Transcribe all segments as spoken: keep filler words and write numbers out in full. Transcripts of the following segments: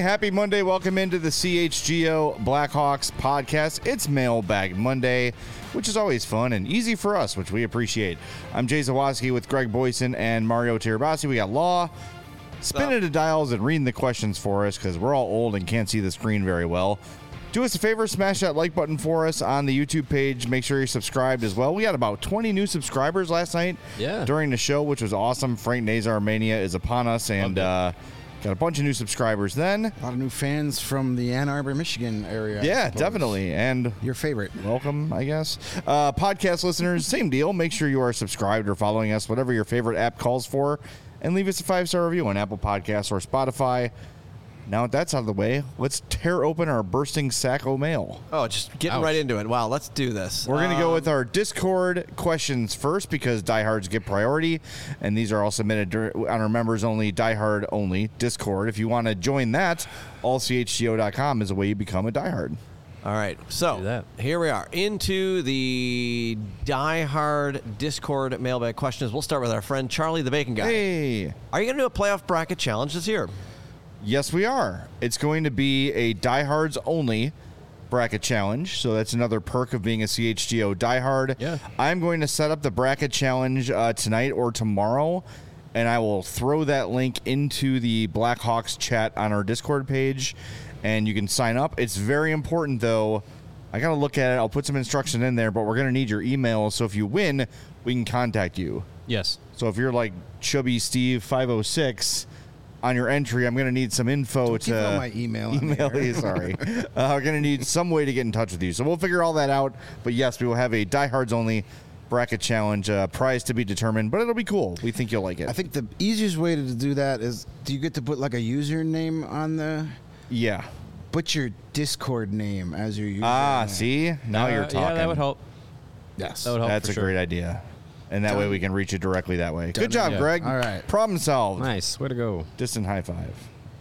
happy Monday. Welcome into the C H G O Blackhawks podcast. It's Mailbag Monday, which is always fun and easy for us, which we appreciate. I'm Jay Zawaski with Greg Boyson and Mario Tirabassi. We got Law spinning the dials and reading the questions for us because we're all old and can't see the screen very well. Do us a favor, smash that like button for us on the YouTube page. Make sure you're subscribed as well. We had about twenty new subscribers last night yeah. during the show, which was awesome. Frank Nazar Mania is upon us, and uh, got a bunch of new subscribers then. A lot of new fans from the Ann Arbor, Michigan area. Yeah, definitely. And your favorite. Welcome, I guess. Uh, podcast listeners, same deal. Make sure you are subscribed or following us, whatever your favorite app calls for, and leave us a five-star review on Apple Podcasts or Spotify. Now that that's out of the way, let's tear open our bursting sack of mail. Oh, just getting Ouch. right into it. Wow, let's do this. We're going to um, go with our Discord questions first because diehards get priority, and these are all submitted on our members-only, diehard only Discord. If you want to join that, all C H G O dot com is a way you become a diehard. All right, so here we are into the diehard Discord mailbag questions. We'll start with our friend Charlie the Bacon Guy. Hey. Are you going to do a playoff bracket challenge this year? Yes, we are. It's going to be a diehards only bracket challenge. So that's another perk of being a C H G O diehard. Yeah. I'm going to set up the bracket challenge uh, tonight or tomorrow, and I will throw that link into the Blackhawks chat on our Discord page, and you can sign up. It's very important, though. I got to look at it. I'll put some instruction in there, but we're going to need your email. So if you win, we can contact you. Yes. So if you're like Chubby Steve five oh six on your entry, I'm going to need some info Don't to give my email. email you. Sorry, uh, we're going to need some way to get in touch with you. So we'll figure all that out. But yes, we will have a diehards only bracket challenge, uh, prize to be determined. But it'll be cool. We think you'll like it. I think the easiest way to do that is, do you get to put like a username on the? Yeah. Put your Discord name as your username. Ah, see, now uh, you're talking. Yeah, that would help. Yes, that would help. That's for a sure. great idea. And that Done. way we can reach it directly that way. Done. Good job, Yeah. Greg. All right. Problem solved. Nice. Way to go. Distant high five.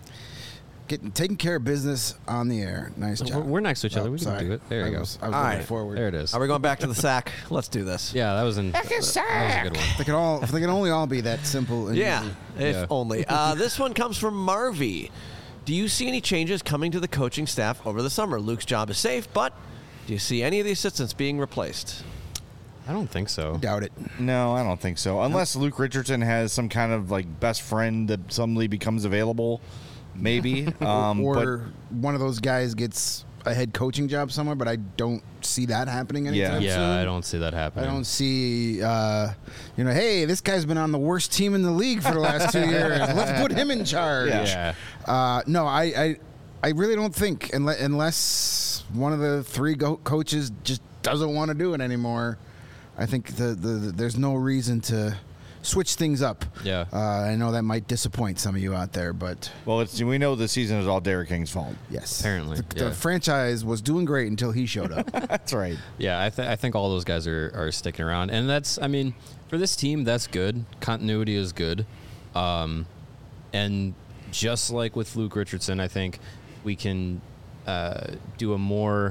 Getting taking care of business on the air. Nice job. We're next to each other. Oh, we can sorry. do it. There you I go. was, I was All looking right. forward. There it is. Are we going back to the sack? Let's do this. Yeah, that was in. That, that was a good one. If they can all, if they can only all be that simple. And Yeah, easy. if Yeah. only. Uh, this one comes from Marvy. Do you see any changes coming to the coaching staff over the summer? Luke's job is safe, but do you see any of the assistants being replaced? I don't think so. Doubt it. No, I don't think so. Unless Luke Richardson has some kind of like best friend that suddenly becomes available, maybe. Um, or one of those guys gets a head coaching job somewhere, but I don't see that happening anytime Yeah, soon. I don't see that I happening. don't see, uh, you know, hey, this guy's been on the worst team in the league for the last two years. Let's put him in charge. Yeah. Yeah. Uh, no, I, I, I really don't think unless, unless one of the three go- coaches just doesn't want to do it anymore. I think the, the, the there's no reason to switch things up. Yeah. Uh, I know that might disappoint some of you out there, but well, it's, we know the season is all Derek King's fault. yes, Apparently, the, yeah. the franchise was doing great until he showed up. That's right. Yeah, I, th- I think all those guys are, are sticking around. And that's, I mean, for this team, that's good. Continuity is good. Um, and just like with Luke Richardson, I think we can uh, do a more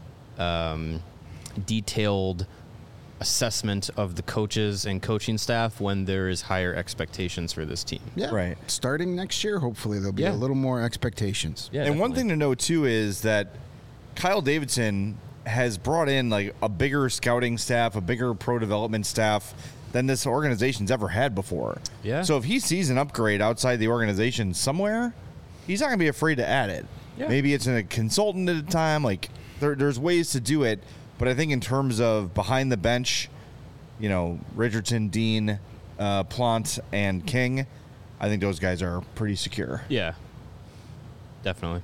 um, detailed assessment of the coaches and coaching staff when there is higher expectations for this team. Yeah, Right. Starting next year, hopefully there'll be Yeah. a little more expectations. Yeah, and one definitely. thing to know too is that Kyle Davidson has brought in like a bigger scouting staff, a bigger pro development staff than this organization's ever had before. Yeah. So if he sees an upgrade outside the organization somewhere, he's not going to be afraid to add it. Yeah. Maybe it's in a consultant at a time. Like there, there's ways to do it. But I think in terms of behind the bench, you know, Richardson, Dean, uh, Plant, and King, I think those guys are pretty secure. Yeah, definitely.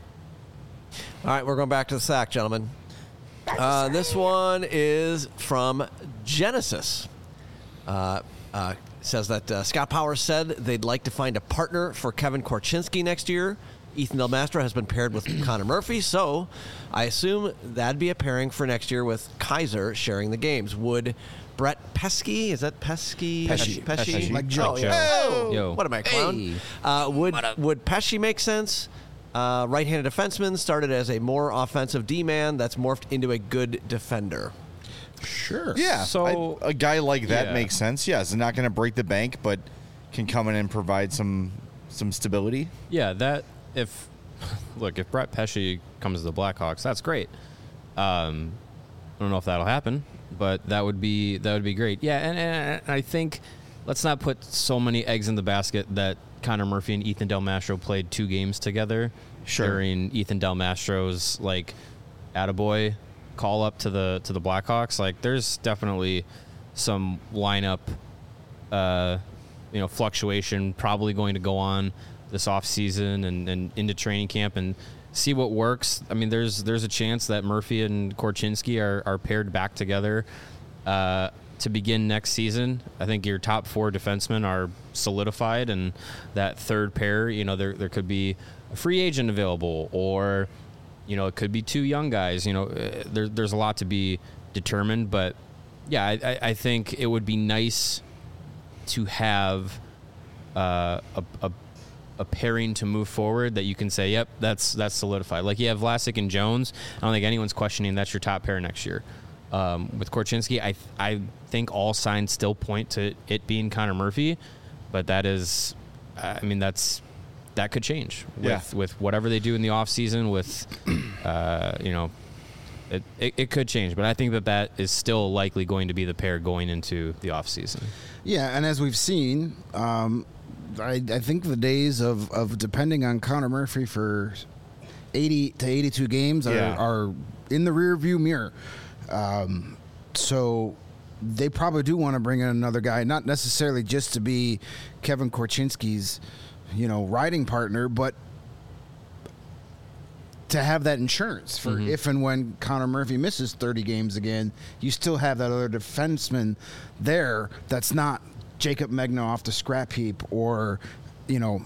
All right, we're going back to the sack, gentlemen. Uh, this one is from Genesis. Uh, uh, says that uh, Scott Powers said they'd like to find a partner for Kevin Korchinski next year. Ethan Del Mastro has been paired with Connor Murphy, so I assume that'd be a pairing for next year with Kaiser sharing the games. Would Brett Pesky, is that Pesky? Pesci. Pesci? Pesci. Like Joe. Oh, yeah. Oh, Yo. What am I, clown? Hey. Uh, would, would Pesci make sense? Uh, right-handed defenseman, started as a more offensive D-man that's morphed into a good defender. Sure. Yeah, So- I- a guy like that Yeah. makes sense. Yes, not going to break the bank, but can come in and provide some some stability. Yeah, that if look, if Brett Pesce comes to the Blackhawks, that's great. Um, I don't know if that'll happen, but that would be that would be great. Yeah, and, and I think let's not put so many eggs in the basket that Connor Murphy and Ethan Del Mastro played two games together Sure. during Ethan Del Mastro's like attaboy call up to the to the Blackhawks. Like, there's definitely some lineup, uh, you know, fluctuation probably going to go on this off season and, and into training camp and see what works. I mean, there's there's a chance that Murphy and Korchinski are, are paired back together uh, to begin next season. I think your top four defensemen are solidified, and that third pair, you know, there there could be a free agent available, or you know, it could be two young guys. You know, uh, there, there's a lot to be determined, but yeah, I, I, I think it would be nice to have uh, a, a a pairing to move forward that you can say, yep, that's that's solidified. Like, you have Vlasic and Jones. I don't think anyone's questioning that's your top pair next year. Um, with Korchinski, I I think all signs still point to it being Connor Murphy, but that is, I mean, that's that could change with, Yeah. with whatever they do in the offseason with, uh, you know, it, it, it could change. But I think that that is still likely going to be the pair going into the offseason. Yeah, and as we've seen, um, I, I think the days of, of depending on Connor Murphy for eighty to eighty-two games are, Yeah. are in the rear view mirror. Um, so they probably do want to bring in another guy, not necessarily just to be Kevin Korchinski's, you know, riding partner, but to have that insurance for Mm-hmm. if and when Connor Murphy misses thirty games again, you still have that other defenseman there that's not Jacob Megna off the scrap heap, or, you know,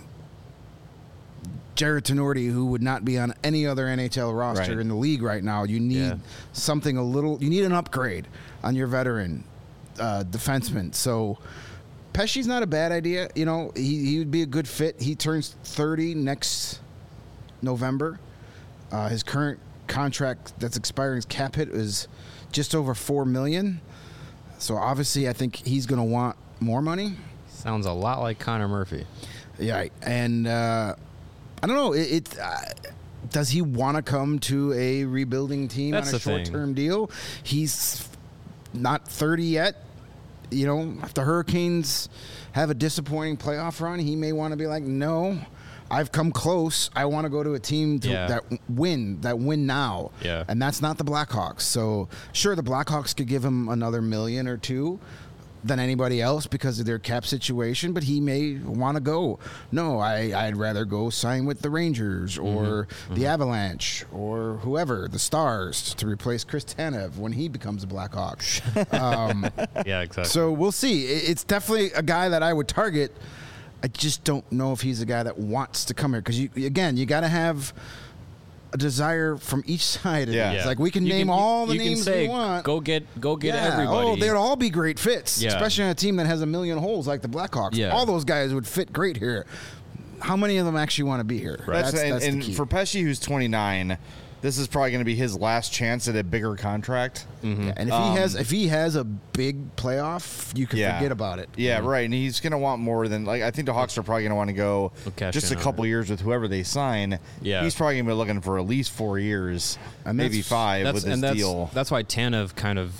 Jared Tenorti, who would not be on any other N H L roster Right. in the league right now. You need Yeah. something a little, you need an upgrade on your veteran uh, defenseman. So Pesce's not a bad idea. You know, he, he would be a good fit. He turns thirty next November. Uh, his current contract that's expiring, his cap hit is just over four million dollars. So obviously, I think he's going to want more money. Sounds a lot like Connor Murphy. Yeah, and uh, I don't know. It, it uh, does he want to come to a rebuilding team That's on a the thing. short-term deal? He's not thirty yet. You know, if the Hurricanes have a disappointing playoff run, he may want to be like, no, I've come close. I want to go to a team to, Yeah. that win, that win now. Yeah. And that's not the Blackhawks. So, sure, the Blackhawks could give him another million or two than anybody else because of their cap situation, but he may want to go, no, I, I'd rather go sign with the Rangers or Mm-hmm. the Avalanche or whoever, the Stars, to replace Chris Tanev when he becomes a Blackhawk. um, Yeah, exactly. so we'll see. It- It's definitely a guy that I would target. I just don't know if he's a guy that wants to come here because, you, again, you got to have a desire from each side. Of Yeah. it. It's Yeah. like we can You name can- all the you can names say, we want. Go get, go get Yeah. everybody. Oh, they'd all be great fits, Yeah. especially on a team that has a million holes like the Blackhawks. Yeah. All those guys would fit great here. How many of them actually want to be here? That's, That's, and, that's and the key. for Pesce, who's twenty-nine, this is probably going to be his last chance at a bigger contract. Yeah, and if he has if he has a big playoff, you can Yeah. forget about it. Yeah, right. And he's going to want more than, like, I think the Hawks are probably going to want to go They'll cash just a in on couple years with whoever they sign. Yeah. He's probably going to be looking for at least four years, And maybe that's- five That's, with his and that's, deal. that's why Tanev kind of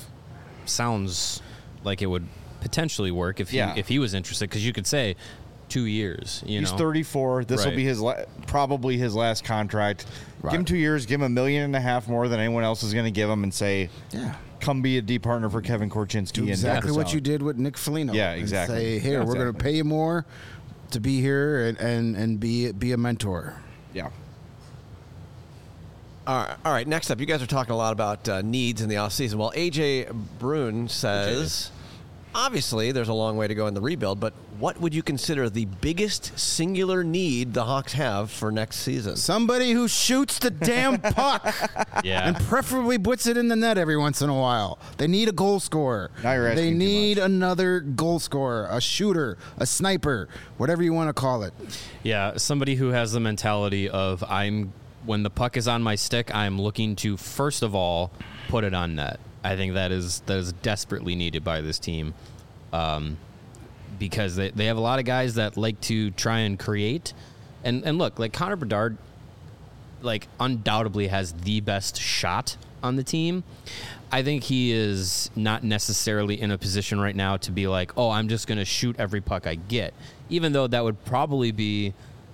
sounds like it would potentially work if he, Yeah. if he was interested, because you could say two years. You He's know, thirty-four. This will Right. be his la- probably his last contract. Right. Give him two years. Give him a million and a half more than anyone else is going to give him, and say, Yeah. "Come be a D partner for Kevin Korchinski." Do and exactly help us what out." you did with Nick Foligno. Yeah, and exactly. say, here, Yeah, we're going to exactly. pay you more to be here and, and, and be be a mentor. Yeah. All right, all right, next up, you guys are talking a lot about uh, needs in the offseason. Well, A J Brune says, obviously, there's a long way to go in the rebuild, but what would you consider the biggest singular need the Hawks have for next season? Somebody who shoots the damn puck Yeah. and preferably puts it in the net every once in a while. They need a goal scorer. Now you're asking They too need much. another goal scorer, a shooter, a sniper, whatever you want to call it. Yeah, somebody who has the mentality of I'm when the puck is on my stick, I'm looking to first of all put it on net. I think that is that is desperately needed by this team, um, because they, they have a lot of guys that like to try and create, and and look, like Connor Bedard, like undoubtedly has the best shot on the team. I think he is not necessarily in a position right now to be like, oh, I'm just going to shoot every puck I get, even though that would probably be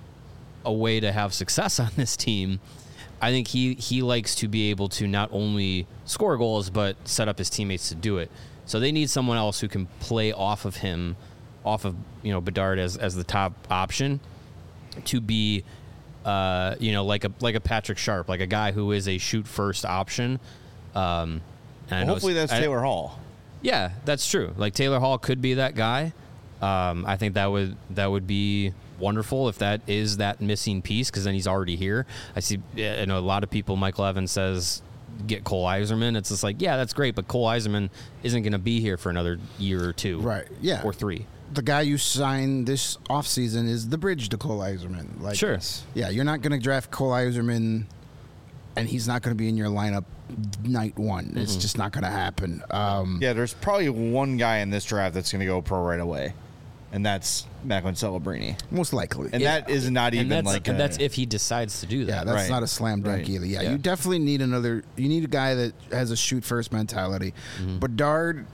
a way to have success on this team. I think he, he likes to be able to not only score goals, but set up his teammates to do it. So they need someone else who can play off of him, off of, you know, Bedard as, as the top option to be, uh, you know, like a, like a Patrick Sharp, like a guy who is a shoot first option. Um, and I Well, know hopefully that's I- Taylor Hall. Yeah, that's true. Like Taylor Hall could be that guy. Um, I think that would that would be wonderful if that is that missing piece, because then he's already here. I see. I know a lot of people. Michael Evans says get Cole Eiserman. It's just like, yeah, that's great, but Cole Eiserman isn't going to be here for another year or two, Right, yeah. or three. The guy you signed this offseason is the bridge to Cole Eiserman. Like, Sure. Yeah, you're not going to draft Cole Eiserman, and he's not going to be in your lineup night one. It's Mm-hmm. just not going to happen. Um, Yeah, there's probably one guy in this draft that's going to go pro right away, and that's Macklin Celebrini. Most likely. And that is not And even that's, like and a, that's if he decides to do Yeah, that. that's Right. not a slam dunk Right. either. Yeah, Yeah. you definitely need another. You need a guy that has a shoot first mentality. Mm-hmm. Bedard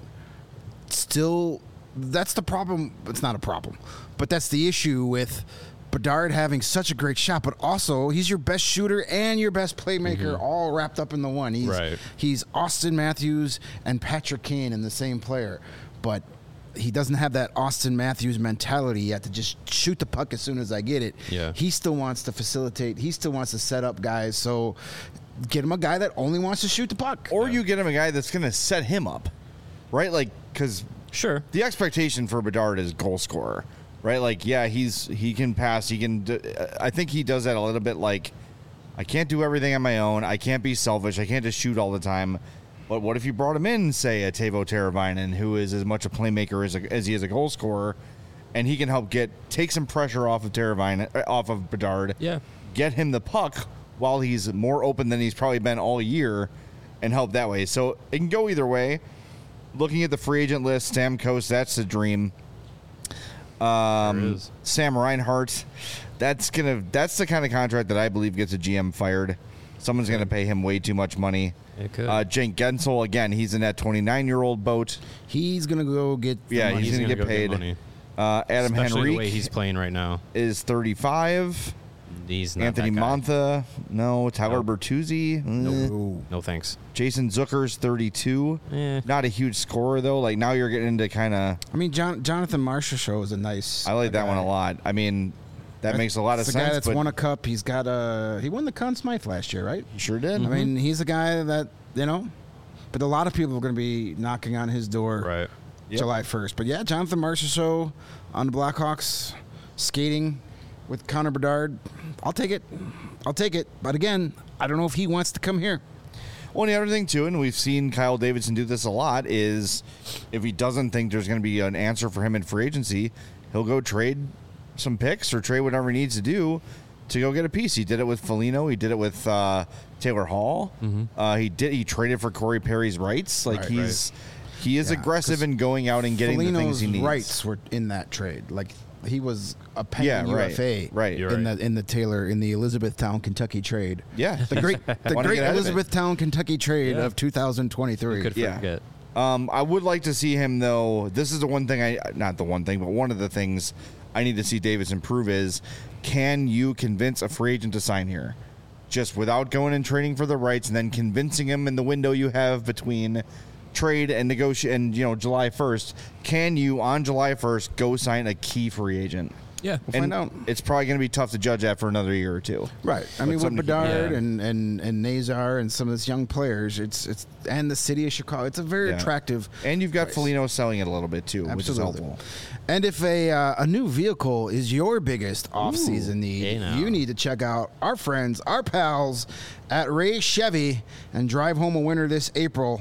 still. That's the problem. It's not a problem, but that's the issue with Bedard having such a great shot. But also, he's your best shooter and your best playmaker, all wrapped up in the one. He's Right. he's Austin Matthews and Patrick Kane in the same player, but. He doesn't have that Austin Matthews mentality yet to just shoot the puck as soon as I get it. Yeah. He still wants to facilitate. He still wants to set up guys. So get him a guy that only wants to shoot the puck. or you get him a guy that's going to set him up, right? Like, because Sure. the expectation for Bedard is goal scorer, right? Like, yeah, he's he can pass. He can. d- I think he does that a little bit. Like, I can't do everything on my own. I can't be selfish. I can't just shoot all the time. But what if you brought him in, say, a Teuvo Teravainen, who is as much a playmaker as, a, as he is a goal scorer, and he can help get take some pressure off of Teravainen, uh, off of Bedard. Yeah. Get him the puck while he's more open than he's probably been all year, and help that way. So it can go either way. Looking at the free agent list, Stamkos, that's the dream. Um, There is. Sam Reinhart, that's gonna that's the kind of contract that I believe gets a G M fired. Someone's gonna pay him way too much money. It could. Uh, Jake Gensel, again, he's in that twenty-nine-year-old boat. He's gonna go get. the Yeah, money. he's, gonna, get go paid. money. Uh, Adam Especially the way Henrique he's playing right now. is thirty-five. He's not Anthony that guy. Montha, no. Tyler Nope. Bertuzzi, eh. Ooh. No thanks. Jason Zucker's thirty-two. Eh. Not a huge scorer though. Like now you're getting into kind of. I mean, John, Jonathan Marshall show is a nice. I like that guy. one a lot. I mean, that makes a lot of It's the sense. guy that's but won a cup. He's got a. He won the Conn Smythe last year, right? he sure did. I mean, he's a guy that you know. But a lot of people are going to be knocking on his door Right. Yep. July first. But yeah, Jonathan Marshall show on the Blackhawks skating with Connor Bedard. I'll take it. I'll take it. But again, I don't know if he wants to come here. Well, and the other thing too, and we've seen Kyle Davidson do this a lot, is if he doesn't think there's going to be an answer for him in free agency, he'll go trade some picks or trade whatever he needs to do to go get a piece. He did it with Foligno. He did it with uh, Taylor Hall. Uh, he did. He traded for Corey Perry's rights. Like Right, he's he is Yeah, aggressive 'cause in going out and getting the things Foligno's he needs. rights were in that trade. Like he was a pending Yeah, U right, F A right. You're in right. the in the Taylor in the Elizabethtown, Kentucky trade. Yeah, The great the Wanna great get out of it. Elizabethtown, Kentucky trade Yeah. of two thousand twenty-three. Could Yeah. forget. Um, I would like to see him though. This is the one thing I not the one thing, but one of the things I need to see Davis improve is can you convince a free agent to sign here, just without going and trading for the rights and then convincing him in the window you have between trade and negotiate and you know July first. Can you on July first go sign a key free agent? Yeah. We'll and find out. It's probably going to be tough to judge that for another year or two. Right. I But mean, with something to keep- Bedard Yeah. and, and, and Nazar and some of these young players, it's it's and the city of Chicago, it's a very Yeah. attractive. And you've got price. Foligno selling it a little bit too, which is Absolutely. helpful. And if a uh, a new vehicle is your biggest off-season need, hey now. you need to check out our friends, our pals at Ray Chevy, and drive home a winner this April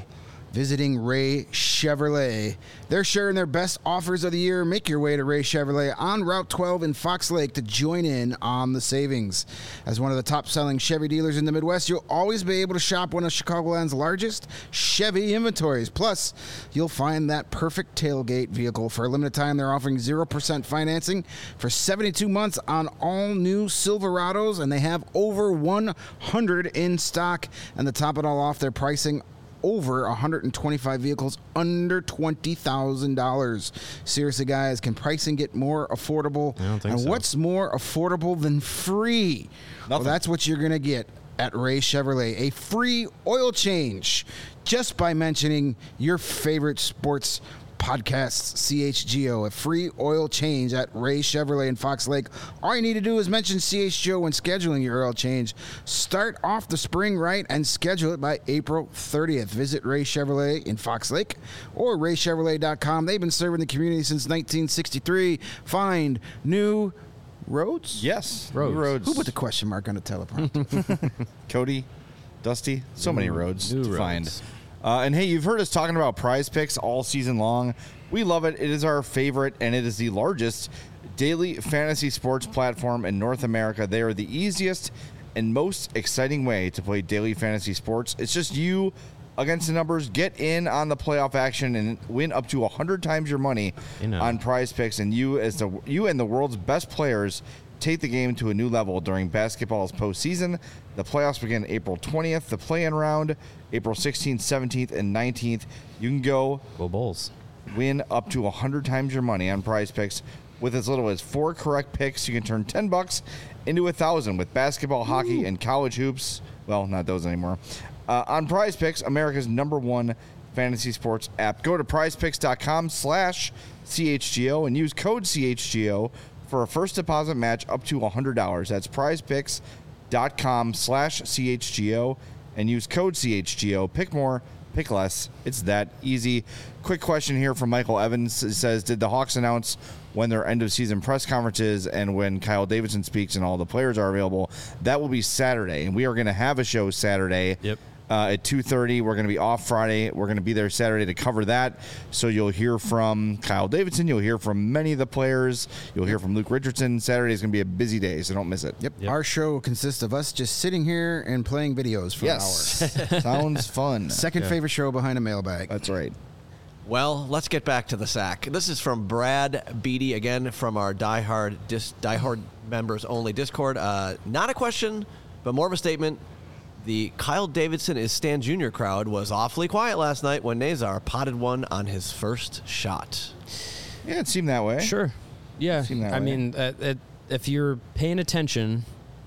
visiting Ray Chevrolet. They're sharing their best offers of the year. Make your way to Ray Chevrolet on Route twelve in Fox Lake to join in on the savings. As one of the top-selling Chevy dealers in the Midwest, you'll always be able to shop one of Chicagoland's largest Chevy inventories. Plus, you'll find that perfect tailgate vehicle. For a limited time, they're offering zero percent financing for seventy-two months on all new Silverados, and they have over one hundred in stock. And to top it all off, they're pricing over one hundred twenty-five vehicles under twenty thousand dollars. Seriously, guys, can pricing get more affordable? I don't think and so. what's more affordable than free? Well, Nothing. that's what you're going to get at Ray Chevrolet. A free oil change just by mentioning your favorite sports podcasts, C H G O. A free oil change at Ray Chevrolet in Fox Lake. All you need to do is mention C H G O when scheduling your oil change. Start off the spring right and schedule it by April thirtieth. Visit Ray Chevrolet in Fox Lake or ray chevrolet dot com. They've been serving the community since nineteen sixty-three. Find new roads? Yes. Roads. New roads. Who put the question mark on the teleprompter? Cody, Dusty, so many roads new to roads. find. Uh, and hey, you've heard us talking about Prize Picks all season long. We love it. It is our favorite, and it is the largest daily fantasy sports platform in North America. They are the easiest and most exciting way to play daily fantasy sports. It's just you against the numbers. Get in on the playoff action and win up to one hundred times your money You know. on Prize Picks, and you as the you and the world's best players take the game to a new level during basketball's postseason. The playoffs begin April twentieth. The play-in round, April sixteenth, seventeenth, and nineteenth. You can go Go Bulls. win up to one hundred times your money on Prize Picks. With as little as four correct picks, you can turn ten bucks into a thousand with basketball, hockey, and college hoops. Well, not those anymore. Uh, on Prize Picks, America's number one fantasy sports app. Go to prizepicks.com slash CHGO and use code C H G O for a first deposit match up to one hundred dollars. That's prizepicks.com slash CHGO and use code C H G O. Pick more, pick less. It's that easy. Quick question here from Michael Evans. It says, did the Hawks announce when their end-of-season press conferences and when Kyle Davidson speaks and all the players are available? That will be Saturday, and we are going to have a show Saturday. Yep. Uh, at two thirty. We're going to be off Friday. We're going to be there Saturday to cover that. So you'll hear from Kyle Davidson. You'll hear from many of the players. You'll hear from Luke Richardson. Saturday is going to be a busy day, so don't miss it. Yep. Yep. Our show consists of us just sitting here and playing videos for Yes. hours. Sounds fun. Second Yeah. favorite show behind a mailbag. That's right. Well, let's get back to the sack. This is from Brad Beatty, again from our diehard, dis, diehard members only Discord. Uh, not a question, but more of a statement. The Kyle Davidson is Stan Junior crowd was awfully quiet last night when Nazar potted one on his first shot. Yeah, it seemed that way. Sure. Yeah. Seem that I way. mean, uh, it, if you're paying attention,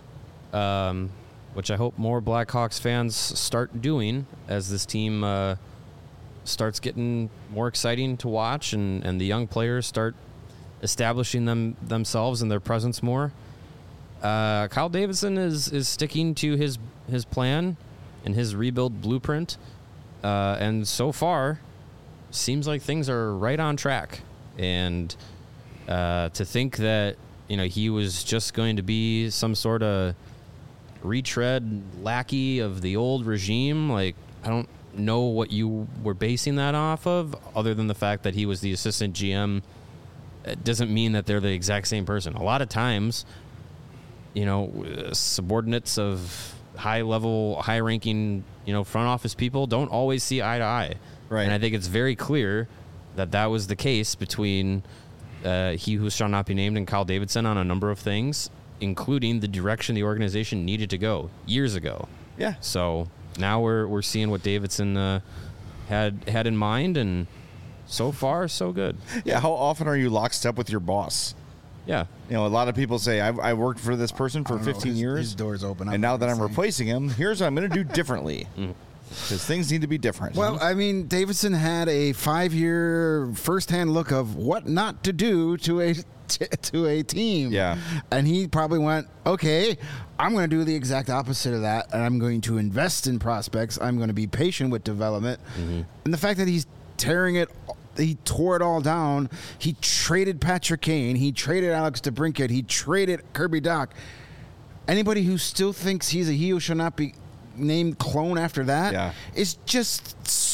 um, which I hope more Blackhawks fans start doing as this team uh, starts getting more exciting to watch and, and the young players start establishing them themselves and their presence more. Uh, Kyle Davidson is, is sticking to his his plan and his rebuild blueprint, uh, and so far, seems like things are right on track. And uh, to think that you know he was just going to be some sort of retread lackey of the old regime, like I don't know what you were basing that off of, other than the fact that he was the assistant G M. It doesn't mean that they're the exact same person. A lot of times, you know, subordinates of high-level, high-ranking, you know, front office people don't always see eye to eye. Right. And I think it's very clear that that was the case between uh, he who shall not be named and Kyle Davidson on a number of things, including the direction the organization needed to go years ago. Yeah. So now we're we're seeing what Davidson uh, had had in mind, and so far so good. Yeah. How often are you lockstep with your boss? Yeah. You know, a lot of people say, I've, I worked for this person for I don't know, fifteen his- years. his door's open. And now that I'm saying. replacing him, here's what I'm going to do differently. Because things need to be different. Well, I mean, Davidson had a five-year first-hand look of what not to do to a to a team. Yeah. And he probably went, okay, I'm going to do the exact opposite of that, and I'm going to invest in prospects. I'm going to be patient with development. And the fact that he's tearing it, he tore it all down. He traded Patrick Kane. He traded Alex DeBrincat. He traded Kirby Doc. Anybody who still thinks he's a he who shall not be named clone after that Yeah. is just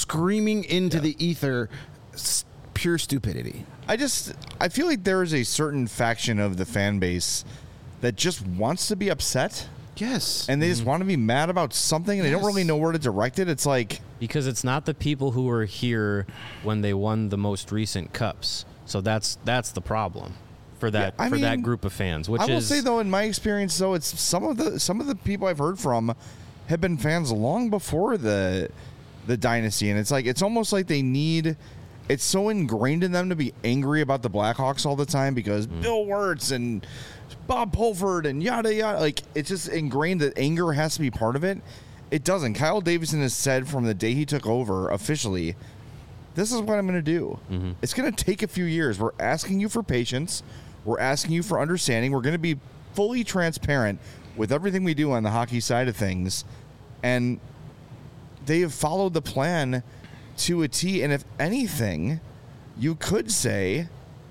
screaming into yeah. the ether, s- pure stupidity. I just I feel like there is a certain faction of the fan base that just wants to be upset. Yes. And they mm-hmm. just want to be mad about something, and yes. they don't really know where to direct it. It's like... Because it's not the people who were here when they won the most recent cups. So that's that's the problem for that yeah, for mean, that group of fans. Which I will is, say, though, in my experience, though, it's some of the some of the people I've heard from have been fans long before the the dynasty. And it's like it's almost like they need... It's so ingrained in them to be angry about the Blackhawks all the time because mm. Bill Wirtz and... Bob Pulford and yada yada. Like, it's just ingrained that anger has to be part of it. It doesn't. Kyle Davidson has said from the day he took over officially, this is what I'm going to do. Mm-hmm. It's going to take a few years. We're asking you for patience. We're asking you for understanding. We're going to be fully transparent with everything we do on the hockey side of things. And they have followed the plan to a T. And if anything, you could say...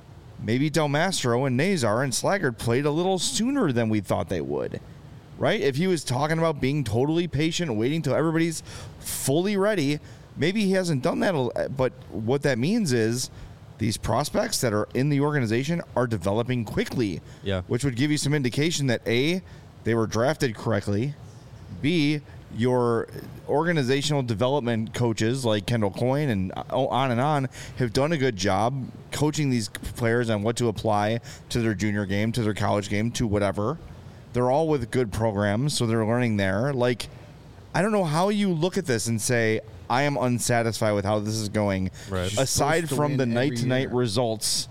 Maybe Del Mastro and Nazar and Slaggert played a little sooner than we thought they would, right? If he was talking about being totally patient, waiting till everybody's fully ready, maybe he hasn't done that. But what that means is these prospects that are in the organization are developing quickly, yeah. which would give you some indication that A, they were drafted correctly, B, your organizational development coaches like Kendall Coyne and on and on have done a good job coaching these players on what to apply to their junior game, to their college game, to whatever. They're all with good programs, so they're learning there. Like, I don't know how you look at this and say, I am unsatisfied with how this is going, right. aside from the night-to-night results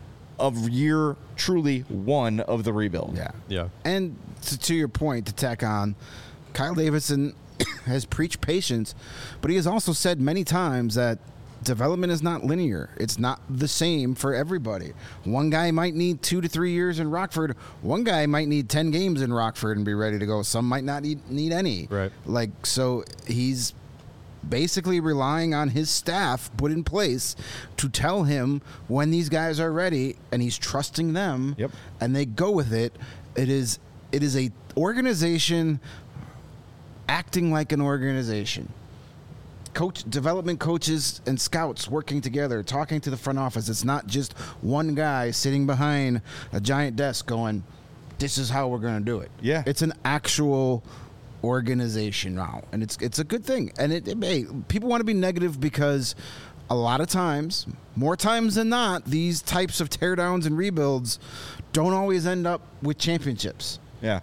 of year truly one of the rebuild. Yeah. Yeah. And to, to your point, to tack on, Kyle Davidson has preached patience, but he has also said many times that development is not linear. It's not the same for everybody. One guy might need two to three years in Rockford. One guy might need ten games in Rockford and be ready to go. Some might not need, need any. Right. Like, so he's basically relying on his staff put in place to tell him when these guys are ready, and he's trusting them. Yep. And they go with it. It is it is a organization acting like an organization. Coach, development coaches and scouts working together, talking to the front office. It's not just one guy sitting behind a giant desk going, this is how we're going to do it. Yeah. It's an actual organization now, and it's it's a good thing. And it, it may, people want to be negative because a lot of times, more times than not, these types of teardowns and rebuilds don't always end up with championships. Yeah.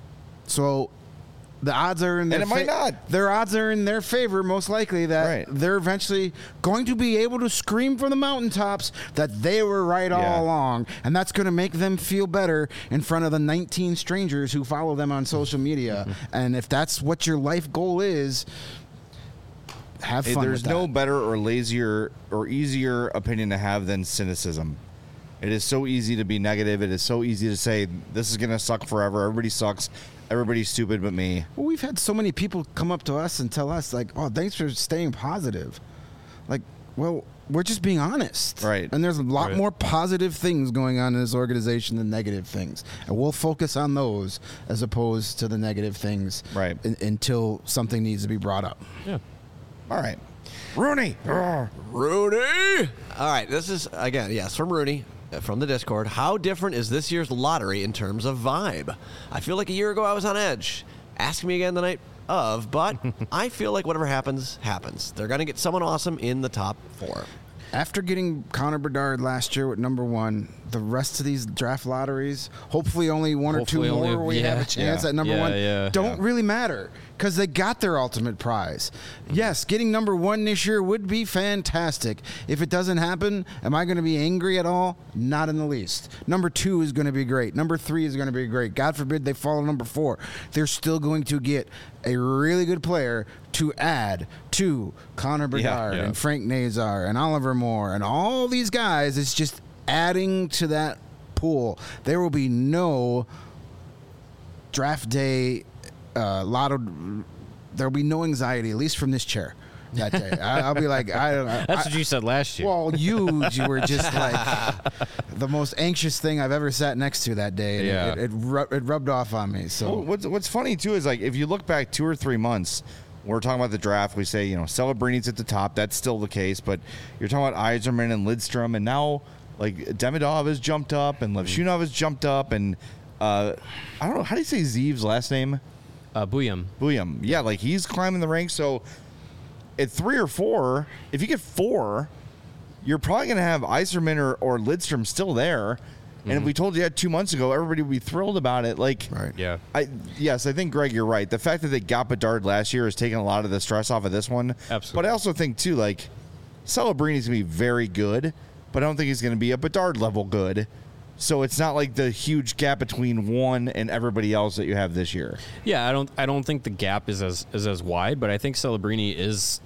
So the odds are in their and it might fa- not. Their odds are in their favor, most likely, that right. they're eventually going to be able to scream from the mountaintops that they were right yeah. all along, and that's going to make them feel better in front of the nineteen strangers who follow them on social media. And if that's what your life goal is, have fun. There's with that. no better or lazier or easier opinion to have than cynicism. It is so easy to be negative. It is so easy to say, this is going to suck forever. Everybody sucks. Everybody's stupid but me. Well, we've had so many people come up to us and tell us, like, oh, thanks for staying positive. Like, well, we're just being honest. Right. And there's a lot Right. more positive things going on in this organization than negative things. And we'll focus on those as opposed to the negative things Right. in, until something needs to be brought up. Yeah. All right. Rooney. Rooney! All right, this is, again, yes, from Rooney. From the Discord, how different is this year's lottery in terms of vibe? I feel like a year ago I was on edge. Ask me again the night of, but I feel like whatever happens, happens. They're going to get someone awesome in the top four. After getting Connor Bedard last year with number one, the rest of these draft lotteries, hopefully only one Hopefully or two only- more we yeah, have a chance yeah, at number yeah, one, yeah, don't yeah. really matter because they got their ultimate prize. Yes, getting number one this year would be fantastic. If it doesn't happen, am I going to be angry at all? Not in the least. Number two is going to be great. Number three is going to be great. God forbid they fall to number four. They're still going to get a really good player to add to Connor Bedard yeah. and Frank Nazar and Oliver Moore and all these guys. It's just adding to that pool. There will be no draft day uh, lotto. There will be no anxiety, at least from this chair that day. I, I'll be like, I don't know. That's I, what you said last year. Well, you, you were just like the most anxious thing I've ever sat next to that day. And Yeah. It, it, it, ru- it rubbed off on me. So Well, what's, what's funny, too, is like if you look back two or three months, we're talking about the draft, we say, you know, Celebrini's at the top. That's still the case. But you're talking about Yzerman and Lidstrom, and now, like, Demidov has jumped up, and Levshunov has jumped up, and uh, I don't know, how do you say Zeev's last name? Uh, Buyam. Buyam. Yeah, like, he's climbing the ranks. So at three or four, if you get four, you're probably going to have Yzerman or, or Lidstrom still there. And if we told you that two months ago, everybody would be thrilled about it. Like, Right. Yeah. I yes, I think Greg, you're right. The fact that they got Bedard last year has taken a lot of the stress off of this one. Absolutely. But I also think too, like, Celebrini's gonna be very good, but I don't think he's gonna be a Bedard level good. So it's not like the huge gap between one and everybody else that you have this year. Yeah, I don't I don't think the gap is as is as wide, but I think Celebrini is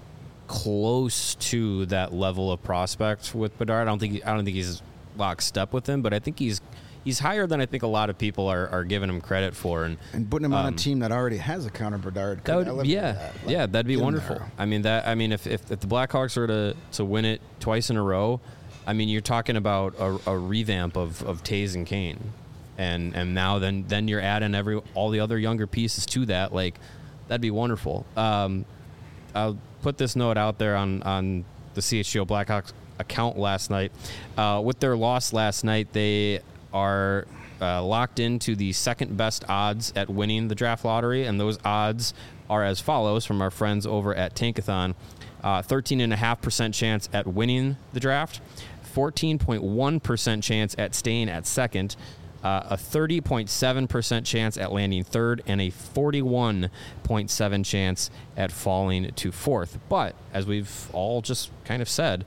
close to that level of prospect with Bedard. I don't think he, I don't think he's lockstep with him, but I think he's he's higher than I think a lot of people are, are giving him credit for. And And putting him on Um, a team that already has a Connor Bedard. that could would elevate yeah that. Like, yeah that'd be get him wonderful. there. I mean that I mean if, if, if the Blackhawks were to to win it twice in a row, I mean you're talking about a, a revamp of of Taves and Kane, and and now then then you're adding every all the other younger pieces to that. Like, that'd be wonderful. Um, I'll put this note out there on on the C H G O Blackhawks account last night. Uh, with their loss last night, they are uh, locked into the second best odds at winning the draft lottery, and those odds are as follows from our friends over at Tankathon. Uh, thirteen point five percent chance at winning the draft, fourteen point one percent chance at staying at second, uh, a thirty point seven percent chance at landing third, and a forty-one point seven chance at falling to fourth. But as we've all just kind of said,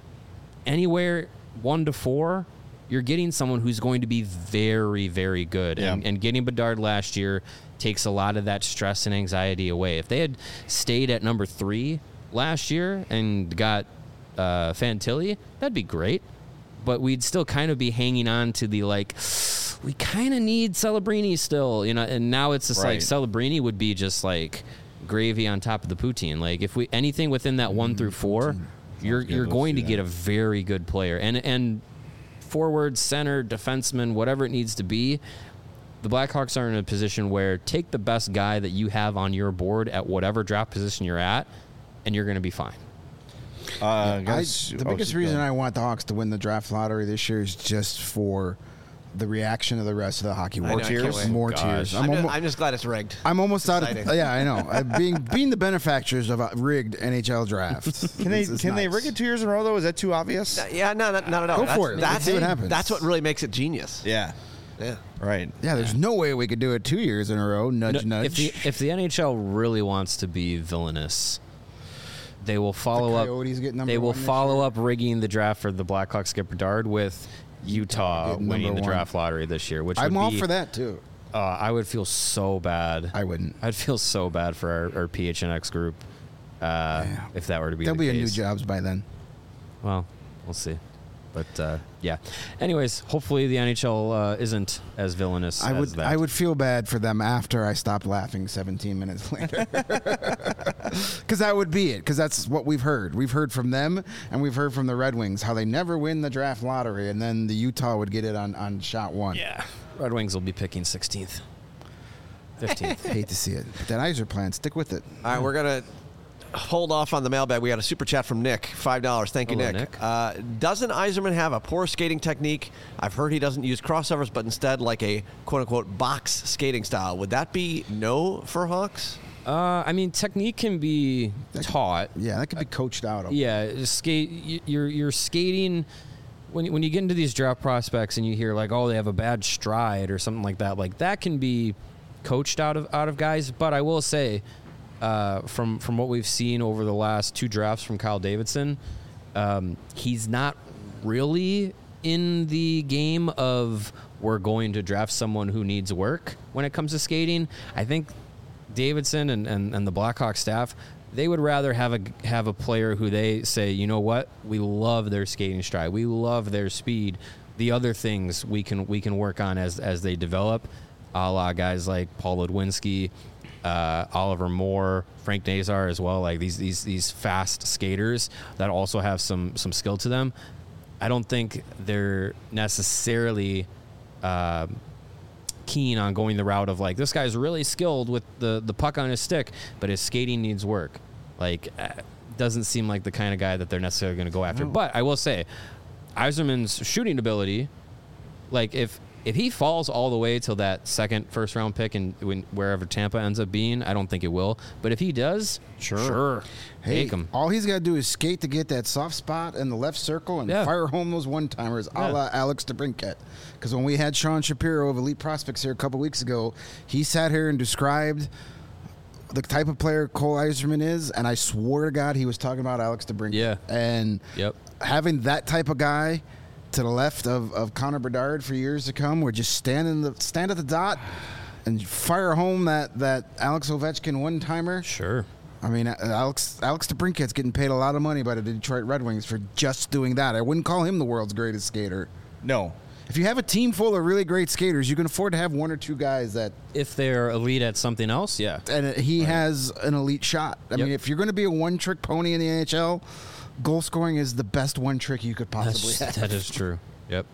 anywhere one to four, you're getting someone who's going to be very, very good. Yeah. And, and getting Bedard last year takes a lot of that stress and anxiety away. If they had stayed at number three last year and got uh, Fantilli, that'd be great. But we'd still kind of be hanging on to the, like, we kind of need Celebrini still, you know. And now it's just Right. like Celebrini would be just like gravy on top of the poutine. Like, if we anything within that one through four, you're good. you're Let's going do to get that. a very good player. And and forward, center, defenseman, whatever it needs to be, the Blackhawks are in a position where take the best guy that you have on your board at whatever draft position you're at, and you're going to be fine. Uh, I, guys- the oh, biggest keep reason going. I want the Hawks to win the draft lottery this year is just for the reaction of the rest of the hockey I world. know, I can't tears? wait. More Gosh. tears. I'm, I'm, just, almo- I'm just glad it's rigged. I'm almost out of. Exciting. Yeah, I know. Uh, being being the benefactors of a rigged N H L draft. Can they is- is can they nice. rig it two years in a row though? Is that too obvious? Yeah, no, not, not at all. Go that's, for it. That's, Let's see what happens. That's what really makes it genius. Yeah. Yeah. Right. Yeah, there's no way we could do it two years in a row. Nudge, No, nudge. If the if the N H L really wants to be villainous, they will follow up. Coyotes get number They will one this follow year. up rigging the draft for the Blackhawks get Bedard with Utah get number winning the one. draft lottery this year. Which I'm would all be, for that too. Uh, I would feel so bad. I wouldn't. I'd feel so bad for our, our P H N X group uh, Yeah. if that were to be There'll the be a new case. jobs by then. Well, we'll see. But uh, yeah. Anyways, hopefully the N H L uh, isn't as villainous I as would that. I would feel bad for them after I stopped laughing seventeen minutes later. Because that would be it. Because that's what we've heard. We've heard from them, and we've heard from the Red Wings how they never win the draft lottery, and then the Utah would get it on, on shot one. Yeah. Red Wings will be picking sixteenth. fifteenth. Hate to see it. But that Iser plan, stick with it. All right, we're going to hold off on the mailbag. We got a super chat from Nick, five dollars. Thank you, Hello, Nick. Nick. Uh, doesn't Yzerman have a poor skating technique? I've heard he doesn't use crossovers, but instead like a quote-unquote box skating style. Would that be no for Hawks? Uh, I mean, technique can be taught. Yeah, that could be coached out. Yeah, skate. y- You're you're skating when when you get into these draft prospects and you hear like, oh, they have a bad stride or something like that. Like that can be coached out of out of guys. But I will say, uh, from from what we've seen over the last two drafts from Kyle Davidson, um, he's not really in the game of we're going to draft someone who needs work when it comes to skating. I think Davidson and, and, and the Blackhawks staff, they would rather have a have a player who they say, you know what, we love their skating stride, we love their speed. The other things we can we can work on as as they develop, a la guys like Paul Ludwinski, uh, Oliver Moore, Frank Nazar as well. Like these these these fast skaters that also have some some skill to them. I don't think they're necessarily. Uh, keen on going the route of like, this guy's really skilled with the, the puck on his stick, but his skating needs work. Like, uh, doesn't seem like the kind of guy that they're necessarily going to go after. No. But I will say, Yzerman's shooting ability, like if if he falls all the way till that second first round pick and when wherever Tampa ends up being, I don't think it will. But if he does, Sure. sure, Hey, take him. all he's got to do is skate to get that soft spot in the left circle and Yeah. fire home those one-timers a Yeah. la Alex DeBrincat. Because when we had Sean Shapiro of Elite Prospects here a couple weeks ago, he sat here and described the type of player Cole Yzerman is, and I swore to God he was talking about Alex DeBrincat. Yeah. And Yep. having that type of guy to the left of, of Connor Bedard for years to come, where just stand in the stand at the dot and fire home that, that Alex Ovechkin one-timer. Sure. I mean, Alex Alex DeBrincat's getting paid a lot of money by the Detroit Red Wings for just doing that. I wouldn't call him the world's greatest skater. No. If you have a team full of really great skaters, you can afford to have one or two guys that, If they're elite at something else, yeah. and he has an elite shot. I Yep. mean, if you're going to be a one-trick pony in the N H L, goal scoring is the best one trick you could possibly That's, have. that is true. Yep.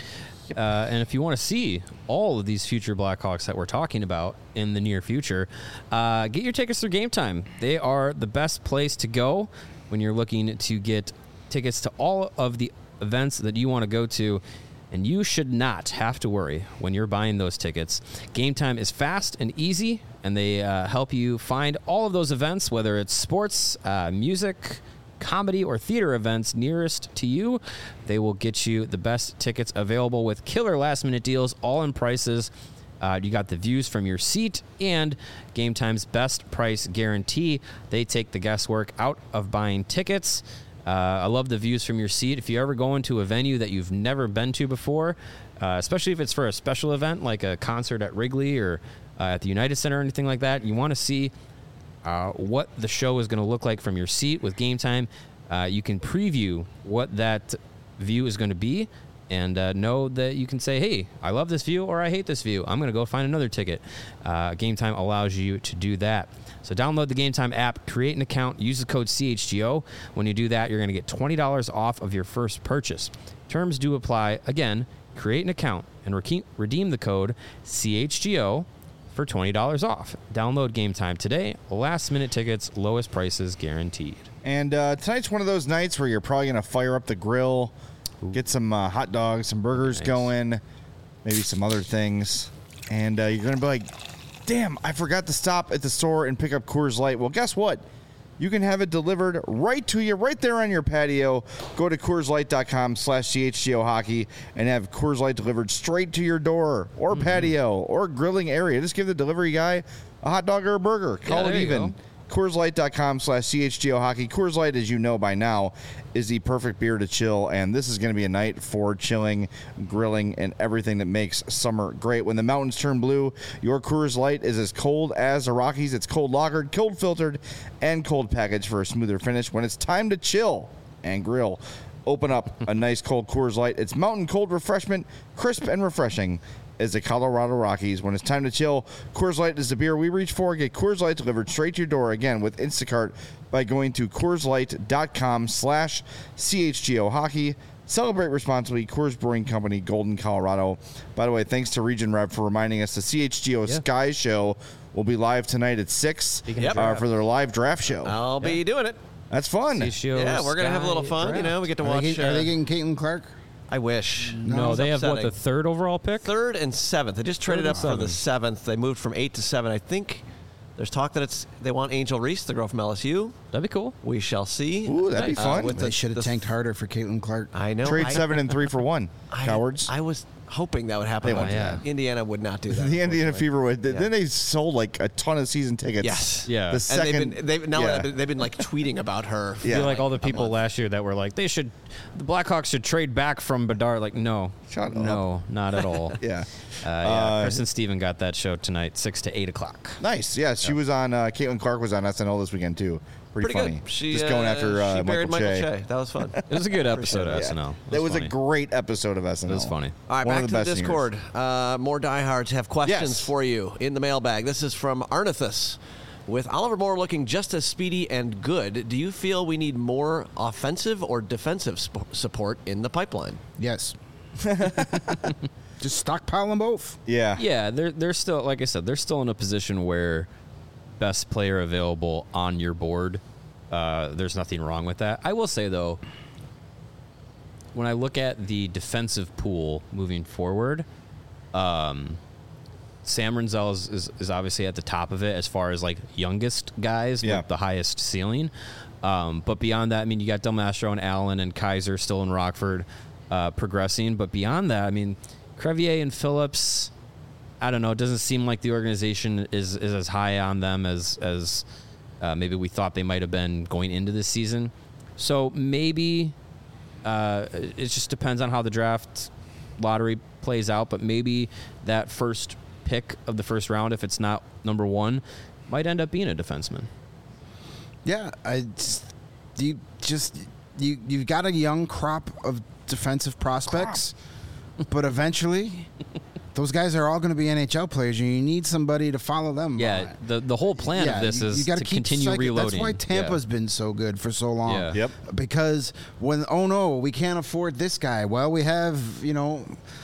Uh, and if you want to see all of these future Blackhawks that we're talking about in the near future, uh, get your tickets through Game Time. They are the best place to go when you're looking to get tickets to all of the events that you want to go to. And you should not have to worry when you're buying those tickets. Game Time is fast and easy, and they uh, help you find all of those events, whether it's sports, uh, music, comedy, or theater events nearest to you. They will get you the best tickets available with killer last-minute deals, all in prices. Uh, you got the views from your seat and Game Time's best price guarantee. They take the guesswork out of buying tickets. Uh, I love the views from your seat. If you ever go into a venue that you've never been to before, uh, especially if it's for a special event like a concert at Wrigley or uh, at the United Center or anything like that, you want to see uh, what the show is going to look like from your seat with Game Time. Uh, you can preview what that view is going to be and uh, know that you can say, hey, I love this view or I hate this view. I'm going to go find another ticket. Uh, Game Time allows you to do that. So download the Game Time app, create an account, use the code C H G O. When you do that, you're going to get twenty dollars off of your first purchase. Terms do apply. Again, create an account and re- redeem the code C H G O for twenty dollars off. Download Game Time today. Last minute tickets, lowest prices guaranteed. And uh, tonight's one of those nights where you're probably going to fire up the grill, get some uh, hot dogs, some burgers Nice. going, maybe some other things. And uh, you're going to be like, damn, I forgot to stop at the store and pick up Coors Light. Well, guess what? You can have it delivered right to you, right there on your patio. Go to CoorsLight.com slash CHGO Hockey and have Coors Light delivered straight to your door or mm-hmm. patio or grilling area. Just give the delivery guy a hot dog or a burger. Call yeah, it even. Go. CoorsLight.com slash CHGO Hockey. Coors Light, as you know by now, is the perfect beer to chill, and this is going to be a night for chilling, grilling, and everything that makes summer great. When the mountains turn blue, your Coors Light is as cold as the Rockies. It's cold lagered, cold filtered, and cold packaged for a smoother finish. When it's time to chill and grill, open up a nice cold Coors Light. It's mountain cold refreshment, crisp and refreshing as the Colorado Rockies. When it's time to chill, Coors Light is the beer we reach for. Get Coors Light delivered straight to your door, again, with Instacart by going to CoorsLight.com slash CHGO Hockey. Celebrate responsibly. Coors Brewing Company, Golden, Colorado. By the way, thanks to Region Rep for reminding us the C H G O Yeah. Sky Show will be live tonight at six Yep. uh, for their live draft show. I'll be doing it. That's fun. C H G O Yeah, we're gonna have a little Sky fun. You know, we get to Are watch. they, get- uh, are they getting Caitlin Clark? I wish. No, It's they have what, upsetting. the third overall pick? Third and seventh. They just traded Third up and for the seven. seventh. They moved from eight to seven. I think there's talk that it's they want Angel Reese, the girl from L S U. That'd be cool. We shall see. Ooh, that'd be Nice. fun. Uh, with They the- should have the- tanked harder for Caitlin Clark. I know. Trade I, seven and three for one. I, Cowards. I was hoping that would happen. They but won't do that. Indiana would not do that. the Indiana unfortunately. Fever would. Yeah. Then they sold like a ton of season tickets. Yes. Yeah. The And second. And they've been, they've, now yeah. they've, been, they've been like tweeting about her. I Yeah. feel like all the a people month. last year that were like, they should, the Blackhawks should trade back from Bedard. Like, no. Shut No, not at all. yeah. Uh, yeah, Uh, Chris and Steven got that show tonight, six to eight o'clock. Nice. Yeah, she was on. Uh, Caitlin Clark was on S N L this weekend too. Pretty, Pretty funny. good. She, Just going uh, after uh, she buried Michael, Michael Che. Che. That was fun. It was a good episode of Yeah. S N L. It That was funny. a great episode of S N L. It was funny. All right, One back of to the the best in Discord. Uh, more diehards have questions Yes. for you in the mailbag. This is from Arnithus. With Oliver Moore looking just as speedy and good, do you feel we need more offensive or defensive sp- support in the pipeline? Yes. Just stockpile them both. Yeah. Yeah, they're they're still, like I said, they're still in a position where best player available on your board. Uh, there's nothing wrong with that. I will say though, when I look at the defensive pool moving forward, um, Sam Renzel is, is, is obviously at the top of it as far as like youngest guys Yeah. with the highest ceiling. Um, but beyond that, I mean, you got Del Mastro and Allen and Kaiser still in Rockford uh, progressing. But beyond that, I mean, Crevier and Phillips, I don't know. It doesn't seem like the organization is, is as high on them as as uh, maybe we thought they might have been going into this season. So maybe uh, it just depends on how the draft lottery plays out. But maybe that first pick of the first round, if it's not number one, might end up being a defenseman. Yeah, I just, you just you you've got a young crop of defensive prospects, but eventually those guys are all going to be N H L players, and you need somebody to follow them. Yeah, the the whole plan Yeah, of this you- is you gotta to keep continue cycling. reloading. That's why Tampa's Yeah. been so good for so long. Yeah. Yep. Because when oh no, we can't afford this guy. Well, we have you know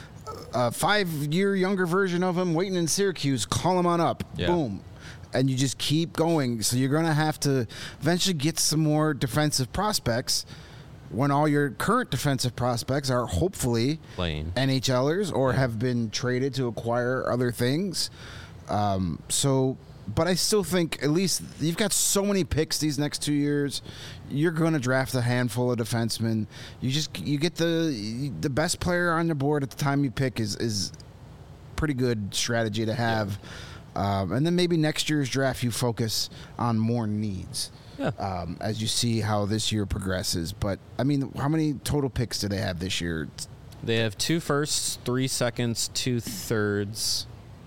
a five-year younger version of him waiting in Syracuse. Call him on up. Yeah. Boom. And you just keep going. So you're going to have to eventually get some more defensive prospects when all your current defensive prospects are hopefully Playing. NHLers or have been traded to acquire other things. Um, so, but I still think at least you've got so many picks these next two years. You're going to draft a handful of defensemen. You just you get the the best player on the board at the time you pick is is pretty good strategy to have. Um, and then maybe next year's draft you focus on more needs. Yeah. Um, as you see how this year progresses. But I mean, how many total picks do they have this year? They have two firsts, three seconds, two thirds.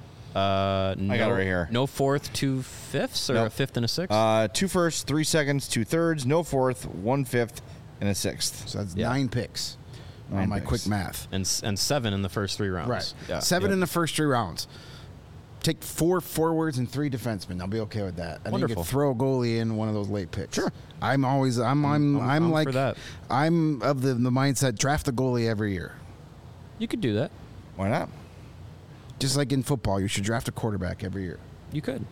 Uh, no, I got it right here. No fourth, two fifths, or Nope. a fifth and a sixth. Uh, two firsts, three seconds, two thirds, no fourth, one fifth, and a sixth. So that's Yeah. nine picks. Nine on my picks. quick math. and s- and seven in the first three rounds. Right. Yeah. Seven Yep. in the first three rounds. Take four forwards and three defensemen. I'll be okay with that. And you Wonderful. could throw a goalie in one of those late picks. Sure. I'm always I'm I'm I'm, I'm- I'm like for that. I'm of the the mindset draft the goalie every year. You could do that. Why not? Just like in football, you should draft a quarterback every year. You could.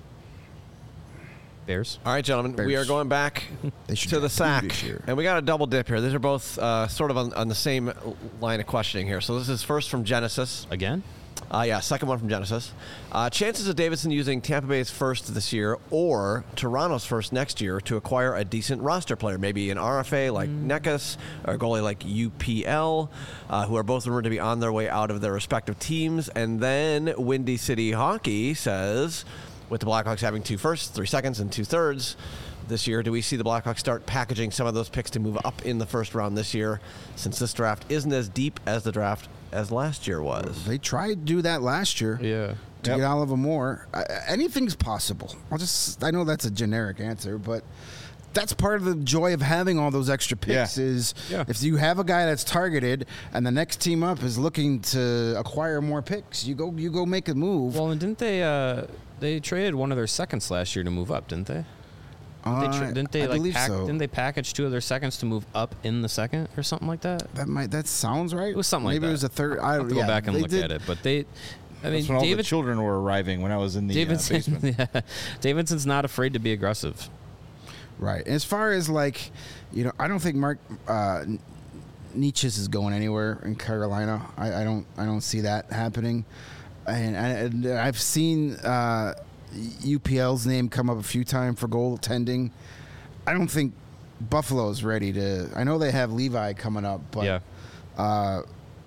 Bears. All right, gentlemen, we are Bears. going back They should to the draft two sack, this year. and we got a double dip here. These are both uh, sort of on, on the same line of questioning here. So this is first from Genesis. Again? Uh, yeah, second one from Genesis. Uh, chances of Davidson using Tampa Bay's first this year or Toronto's first next year to acquire a decent roster player, maybe an R F A like Mm. Nekas or a goalie like U P L, uh, who are both rumored to be on their way out of their respective teams. And then Windy City Hockey says, with the Blackhawks having two firsts, three seconds, and two thirds this year, do we see the Blackhawks start packaging some of those picks to move up in the first round this year, since this draft isn't as deep as the draft as last year was? They tried to do that last year. Yeah. To Yep. get Oliver Moore. I, anything's possible. I'll just I know that's a generic answer, but that's part of the joy of having all those extra picks Yeah. is Yeah. if you have a guy that's targeted and the next team up is looking to acquire more picks, you go you go make a move. Well, and didn't they uh, they traded one of their seconds last year to move up, didn't they? Didn't they, tra- Uh, didn't they I like believe pack, so. didn't they package two of their seconds to move up in the second or something like that? That might that sounds right. It was something like Maybe that. it was a third. I I'll have to yeah, go back and they look did- at it, but they I mean That's when all the David children were arriving when I was in the uh, Davidson, basement. yeah, Davidson's not afraid to be aggressive. Right. As far as like, you know, I don't think Mark uh, Nietzsche's is going anywhere in Carolina. I, I don't. I don't see that happening. And, and I've seen uh, U P L's name come up a few times for goaltending. I don't think Buffalo's ready to. I know they have Levi coming up, but yeah. uh,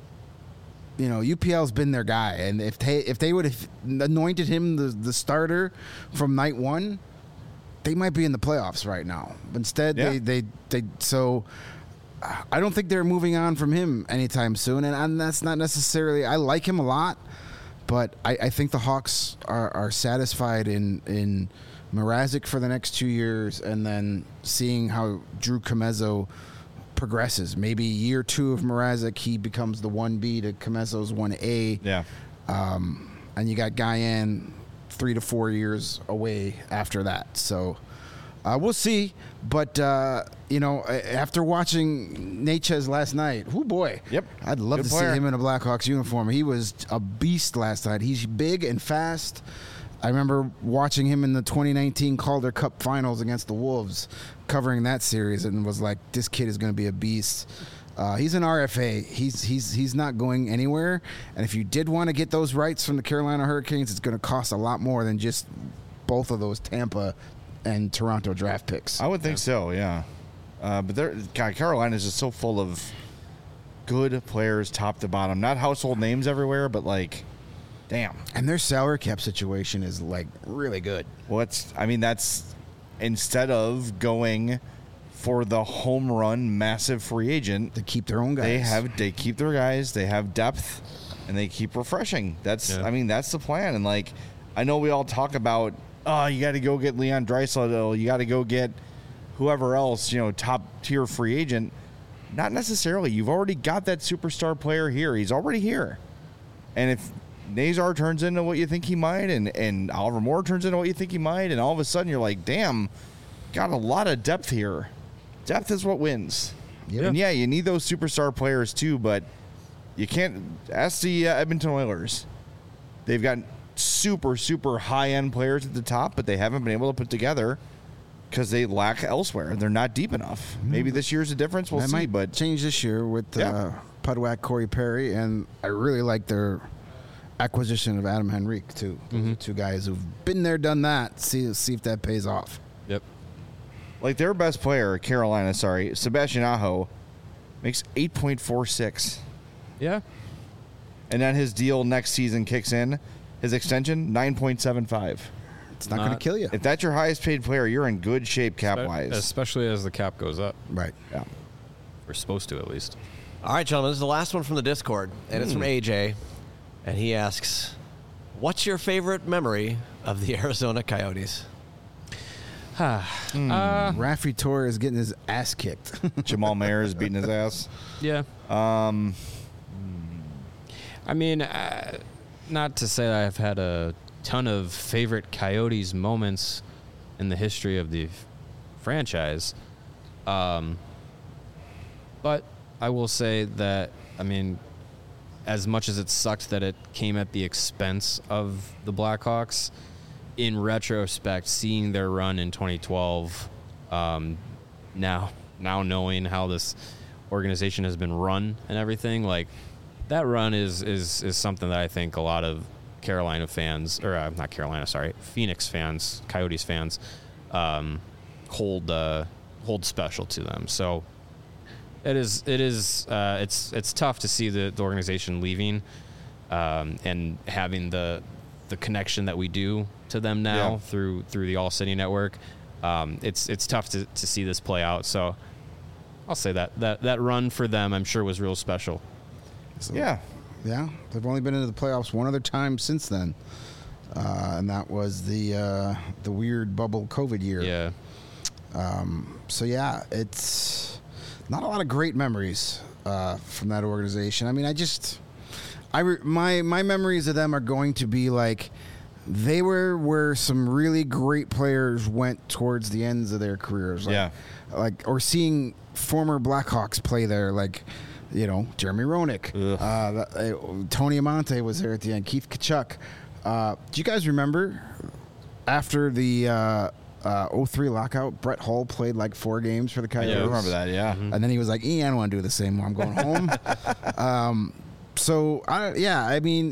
you know, U P L's been their guy, and if they if they would have anointed him the the starter from night one, they might be in the playoffs right now. But instead, Yeah. they, they they so. I don't think they're moving on from him anytime soon, and, and that's not necessarily. I like him a lot, but I, I think the Hawks are, are satisfied in in Mrazek for the next two years, and then seeing how Drew Comezzo progresses. Maybe year two of Mrazek, he becomes the one B to Comezzo's one A. Yeah. Um, and you got Guyan three to four years away after that. So Uh, we'll see, but uh, you know, after watching Natchez last night, oh boy, Yep. I'd love Good to player. see him in a Blackhawks uniform. He was a beast last night. He's big and fast. I remember watching him in the twenty nineteen Calder Cup Finals against the Wolves, covering that series, and was like, this kid is going to be a beast. Uh, he's an R F A. He's he's he's not going anywhere. And if you did want to get those rights from the Carolina Hurricanes, it's going to cost a lot more than just both of those Tampa and Toronto draft picks. I would think so, yeah. Uh, but they're, God, Carolina is just so full of good players, top to bottom. Not household names everywhere, but like, damn. And their salary cap situation is like really good. What's I mean, that's instead of going for the home run massive free agent, To keep their own guys. they have they keep their guys, they have depth, and they keep refreshing. That's Yeah. I mean, that's the plan. And like, I know we all talk about, oh, you got to go get Leon Draisaitl, you got to go get whoever else, you know, top tier free agent. Not necessarily. You've already got that superstar player here. He's already here. And if Nazar turns into what you think he might, and, and Oliver Moore turns into what you think he might, and all of a sudden you're like, damn, got a lot of depth here. Depth is what wins. Yep. And yeah, you need those superstar players too, but you can't ask the uh, Edmonton Oilers. They've got super, super high-end players at the top, but they haven't been able to put together because they lack elsewhere. They're not deep enough. Maybe this year's a difference. We'll that see, might but change this year with Yeah. uh, Pudwack, Corey Perry, and I really like their acquisition of Adam Henrique too. Those are two guys who've been there, done that. See see if that pays off. Yep. like their best player, Carolina, sorry, Sebastian Aho, makes eight point four six. Yeah. And then his deal next season kicks in. His extension, nine point seven five. It's not going to Not- kill you. If that's your highest paid player, you're in good shape cap-wise. Especially as the cap goes up. Right. Yeah. We're supposed to, at least. All right, gentlemen, this is the last one from the Discord, and it's from A J, and he asks, what's your favorite memory of the Arizona Coyotes? Uh, Raffi Torres is getting his ass kicked. Jamal Mayer is beating his ass. yeah. Um, I mean, uh, not to say that I've had a ton of favorite Coyotes moments in the history of the f- franchise. Um, but I will say that, I mean, as much as it sucked that it came at the expense of the Blackhawks, in retrospect, seeing their run in twenty twelve, um, now now knowing how this organization has been run and everything, like that run is is is something that I think a lot of Carolina fans, or uh, not Carolina, sorry, Phoenix fans, Coyotes fans, um, hold uh, hold special to them. So it is it is uh, it's it's tough to see the, the organization leaving um, and having the the connection that we do to them now Yeah. through through the All City Network. Um, it's it's tough to, to see this play out. So I'll say that that that run for them, I'm sure, was real special. So, yeah. Yeah, they've only been into the playoffs one other time since then, uh, and that was the uh, the weird bubble COVID year. Yeah. Um, so yeah, it's not a lot of great memories uh, from that organization. I mean, I just, I re- my my memories of them are going to be like they were where some really great players went towards the ends of their careers. Like, Yeah. like or seeing former Blackhawks play there, like. You know, Jeremy Roenick, Ugh. uh, the- uh, Tony Amonte was there at the end. Keith Kachuk. Uh, do you guys remember after the uh, uh, oh three lockout, Brett Hull played like four games for the I Coyotes? do remember that, yeah. And then he was like, "E, I don't want to do the same. I'm going home." um, so I, yeah, I mean,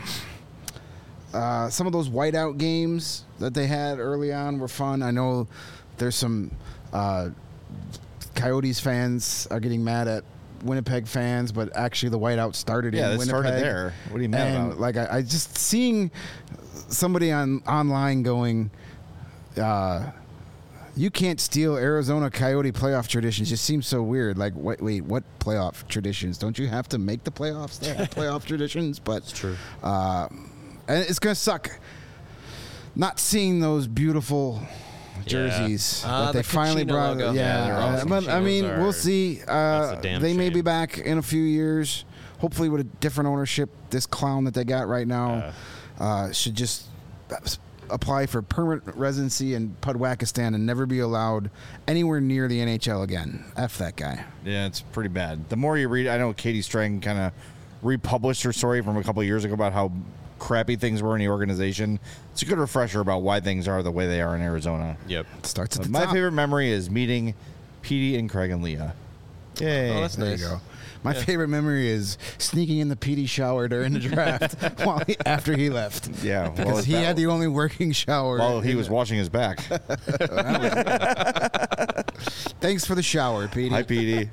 uh, some of those whiteout games that they had early on were fun. I know there's some uh, Coyotes fans are getting mad at Winnipeg fans, but actually the whiteout started Yeah, in it Winnipeg. started there. What do you mean And about? like I, I just seeing somebody on online going, uh, you can't steal Arizona Coyote playoff traditions. Just seems so weird. Like, wait, wait, what playoff traditions? Don't you have to make the playoffs? They have playoff traditions, but It's true. uh, and it's gonna suck not seeing those beautiful jerseys Ah, that they the finally Kachina brought. logo. Yeah, Yeah, they're uh, awesome. but I mean, Kachinas we'll are- see. that's Uh, a damn they may be shame. back in a few years. Hopefully, with a different ownership. This clown that they got right now uh, should just apply for permanent residency in Pudwakistan and never be allowed anywhere near the N H L again. F that guy. Yeah, it's pretty bad. The more you read, I know Katie Strang kind of republished her story from a couple of years ago about how crappy things were in the organization. It's a good refresher about why things are the way they are in Arizona. Yep. It starts at But the my top. favorite memory is meeting Petey and Craig and Leah. Yay. Oh, that's There nice. you go. My favorite memory is sneaking in the P D shower during the draft while he, after he left. Yeah, well, Because he that- had the only working shower. While he in was the- washing his back. Thanks for the shower, Petey. Hi, Petey.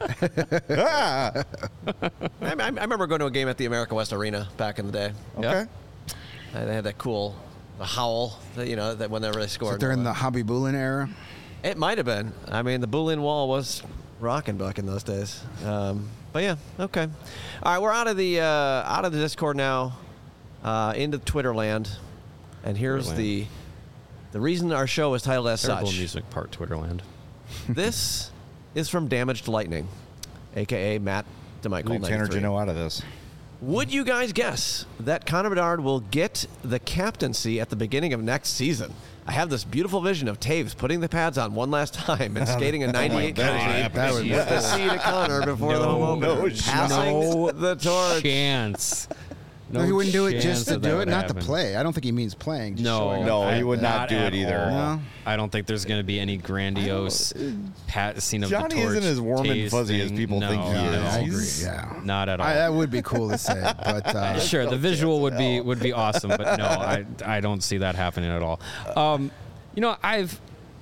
Ah, I, I I remember going to a game at the America West Arena back in the day. okay. Uh, They had that cool, the howl, that, you know, that whenever they scored. During the Hobby Boolin era. It might have been. I mean, the Boolin wall was rocking back in those days. Um, but yeah, okay. All right, we're out of the uh, out of the Discord now, uh, into Twitter land, and here's Twitterland. the the reason our show is titled as Terrible such. music part Twitterland. This is from Damaged Lightning, aka Matt DeMichael. Leave Tanner ninety-three. Gino out of this. Would you guys guess that Connor Bedard will get the captaincy at the beginning of next season? I have this beautiful vision of Taves putting the pads on one last time and skating a ninety-eight God. country That would be with the C to Connor before the home opener, no passing No the torch. Chance. No, he wouldn't do it chance just to that that do it, would not happen. to play. I don't think he means playing. Just No, showing up. No, I- he would not do it at either. all. No. I don't think there's going to be any grandiose passing of Johnny the torch. isn't as warm and fuzzy as tasting. people no, think he Yeah, is. no, I agree. He's- Yeah. Not at all. I, that would be cool to say, but uh, Sure, the visual would be would be awesome, but no, I I don't see that happening at all. Um, you know, I've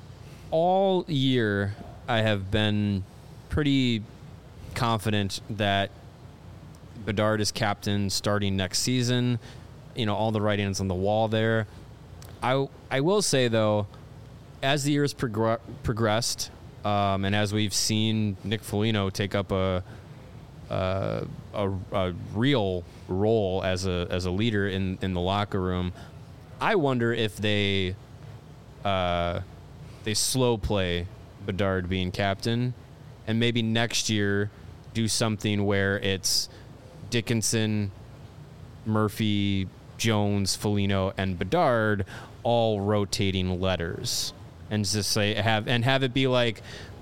all year I have been pretty confident that Bedard is captain starting next season. You know, all the writings on the wall there. I I will say though, as the years progr- progressed, um, and as we've seen Nick Foligno take up a uh, a, a real role as a as a leader in, in the locker room, I wonder if they uh, they slow play Bedard being captain, and maybe next year do something where it's Dickinson, Murphy, Jones, Foligno, and Bedard all rotating letters, and just say have and have it be like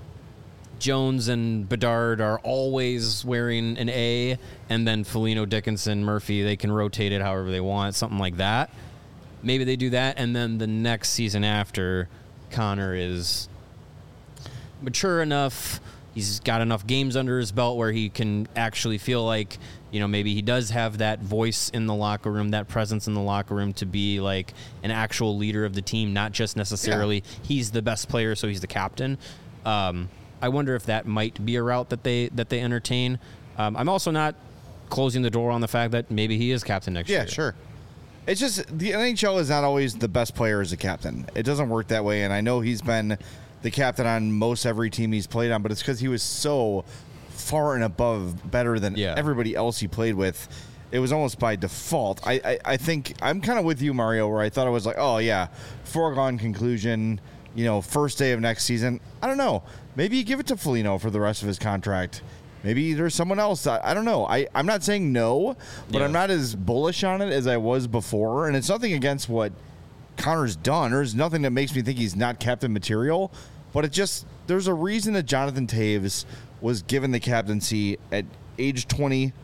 Jones and Bedard are always wearing an A, and then Foligno, Dickinson, Murphy, they can rotate it however they want, something like that. Maybe they do that, and then the next season after, Connor is mature enough, he's got enough games under his belt where he can actually feel like, you know, maybe he does have that voice in the locker room, that presence in the locker room to be like an actual leader of the team, not just necessarily he's the best player, so he's the captain. Um, I wonder if that might be a route that they that they entertain. Um, I'm also not closing the door on the fact that maybe he is captain next Yeah, year. sure. It's just the N H L is not always the best player as a captain. It doesn't work that way, and I know he's been the captain on most every team he's played on, but it's because he was so far and above better than Yeah. everybody else he played with. It was almost by default. I, I, I think I'm kind of with you, Mario, where I thought it was like, oh, yeah, foregone conclusion, you know, first day of next season. I don't know. Maybe you give it to Foligno for the rest of his contract. Maybe there's someone else. I, I don't know. I, I'm not saying no, but Yeah. I'm not as bullish on it as I was before. And it's nothing against what Connor's done. There's nothing that makes me think he's not captain material. But it just, there's a reason that Jonathan Taves was given the captaincy at age twenty.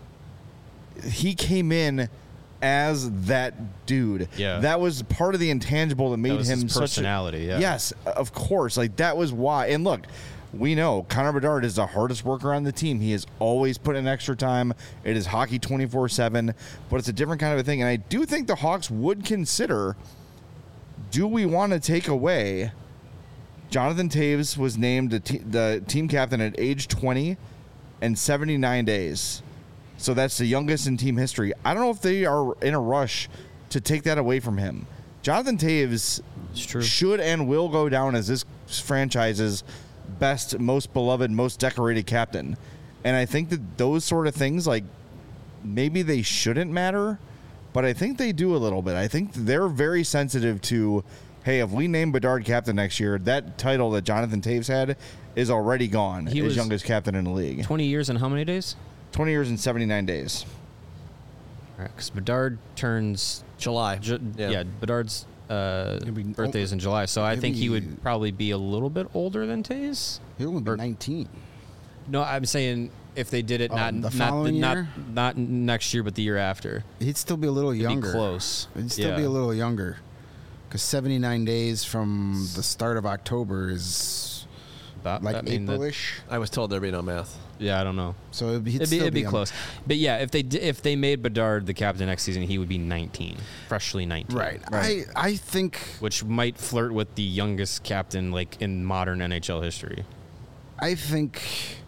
He came in as that dude. Yeah. That was part of the intangible that made was him his such a- personality, yeah. Yes, of course. Like that was why. And look, we know Connor Bedard is the hardest worker on the team. He has always put in extra time. It is hockey twenty-four seven, but it's a different kind of a thing. And I do think the Hawks would consider, do we want to take away Jonathan Taves was named the, te- the team captain at age twenty and seventy-nine days. So that's the youngest in team history. I don't know if they are in a rush to take that away from him. Jonathan Taves It's true. should and will go down as this franchise's best, most beloved, most decorated captain. And I think that those sort of things, like, maybe they shouldn't matter, but I think they do a little bit. I think they're very sensitive to, hey, if we name Bedard captain next year, that title that Jonathan Taves had is already gone He as was- youngest captain in the league. twenty years and how many days? twenty years and seventy-nine days. All right, because Bedard turns July. Ju- Yeah. yeah. Bedard's uh, He'll be birthday's in July, so I he'll think he be- would probably be a little bit older than Taves. He'll only be Or- nineteen. No, I'm saying if they did it Oh, not the not following not year? not next year, but the year after. He'd still be a little It'd younger. be close. He'd still yeah. be a little younger. Because seventy-nine days from the start of October is About- like I mean, that- April-ish. I was told there'd be no math. Yeah, I don't know. So it'd be, he'd It'd be, still it'd be young. close. But yeah, if they di- if they made Bedard the captain next season, he would be nineteen, freshly nineteen. Right. Right. I, I think Which might flirt with the youngest captain like in modern N H L history. I think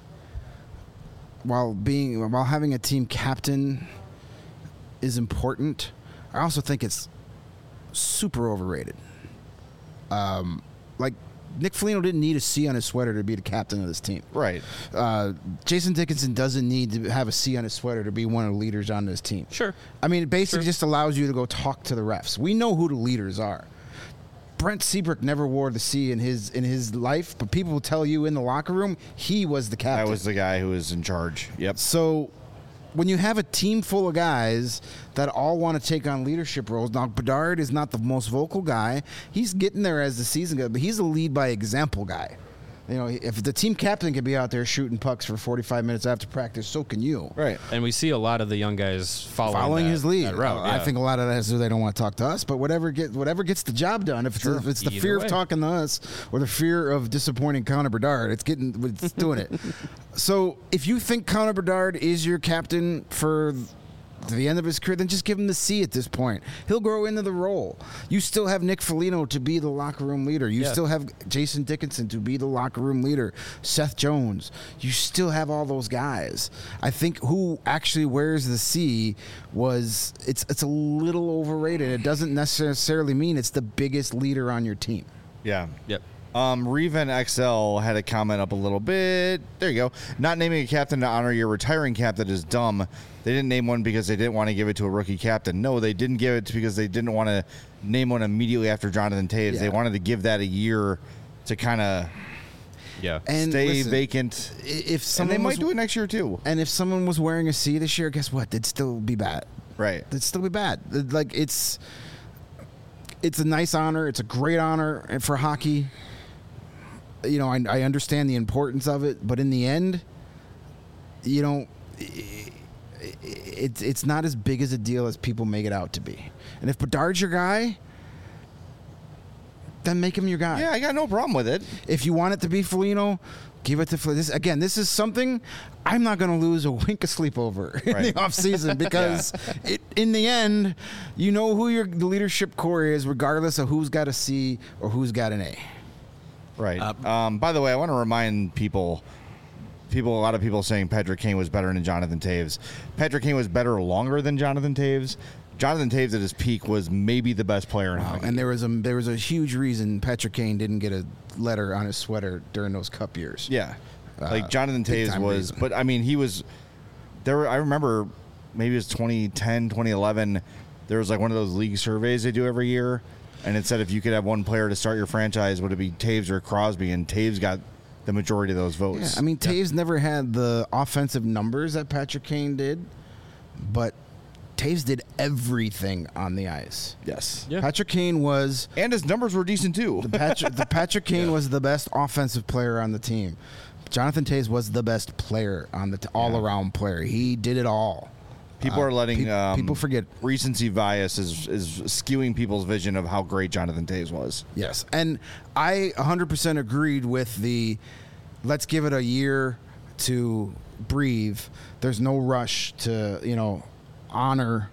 while being while having a team captain is important, I also think it's super overrated. Um, like Nick Foligno didn't need a C on his sweater to be the captain of this team. Right. Uh, Jason Dickinson doesn't need to have a C on his sweater to be one of the leaders on this team. Sure. I mean, it basically Sure. just allows you to go talk to the refs. We know who the leaders are. Brent Seabrook never wore the C in his in his life, but people will tell you in the locker room he was the captain. That was the guy who was in charge. Yep. So when you have a team full of guys that all want to take on leadership roles, now Bedard is not the most vocal guy. He's getting there as the season goes, but he's a lead by example guy. You know, if the team captain can be out there shooting pucks for forty-five minutes after practice, so can you. Right. And we see a lot of the young guys following, Following that- his lead. that route. Uh, I yeah. think a lot of that is they don't want to talk to us, but whatever get whatever gets the job done. If it's, if it's the Either fear way. of talking to us or the fear of disappointing Connor Bedard, it's getting it's doing it. So if you think Connor Bedard is your captain for to the end of his career, then just give him the C at this point. He'll grow into the role. You still have Nick Foligno to be the locker room leader. You Yeah. still have Jason Dickinson to be the locker room leader. Seth Jones. You still have all those guys. I think who actually wears the C was it's it's a little overrated. It doesn't necessarily mean it's the biggest leader on your team. Yeah. Yep. Um, Reven X L had a comment up a little bit. There you go. Not naming a captain to honor your retiring captain is dumb. They didn't name one because they didn't want to give it to a rookie captain. No, they didn't give it because they didn't want to name one immediately after Jonathan Toews. Yeah. They wanted to give that a year to kind of Yeah. And stay listen, vacant. i- If And someone they might was, do it next year too. and if someone was wearing a C this year, guess what? They'd still be bad. Right. It'd still be bad. It- Like it's it's a nice honor. It's a great honor for hockey. You know, I, I understand the importance of it, but in the end, you know, i- i- it's it's not as big as a deal as people make it out to be. And if Bedard's your guy, then make him your guy. Yeah, I got no problem with it. If you want it to be Foligno, give it to Foligno. This again, this is something I'm not going to lose a wink of sleep over in Right. the offseason because it, in the end, you know who your the leadership core is, regardless of who's got a C or who's got an A. Right. Uh, um, by the way, I want to remind people, people, a lot of people saying Patrick Kane was better than Jonathan Toews. Patrick Kane was better longer than Jonathan Toews. Jonathan Toews at his peak was maybe the best player in hockey. And there was a there was a huge reason Patrick Kane didn't get a letter on his sweater during those Cup years. Yeah, Uh, like Jonathan big Toews time was, reason. but I mean, he was there. Were, I remember maybe it was twenty ten, twenty eleven. There was like one of those league surveys they do every year, and it said if you could have one player to start your franchise, would it be Toews or Crosby? And Toews got the majority of those Yeah, votes. I mean, Taves never had the offensive numbers that Patrick Kane did, but Taves did everything on the ice. yes, Yeah. Patrick Kane was and his numbers were decent too. the Patrick, the Patrick Kane was the best offensive player on the team. Jonathan Toews was the best player on the t- all-around player. He did it all. People Uh, are letting pe- um, people forget. recency bias is is skewing people's vision of how great Jonathan Toews was. Yes, and I one hundred percent agreed with the let's give it a year to breathe. There's no rush to, you know, honor.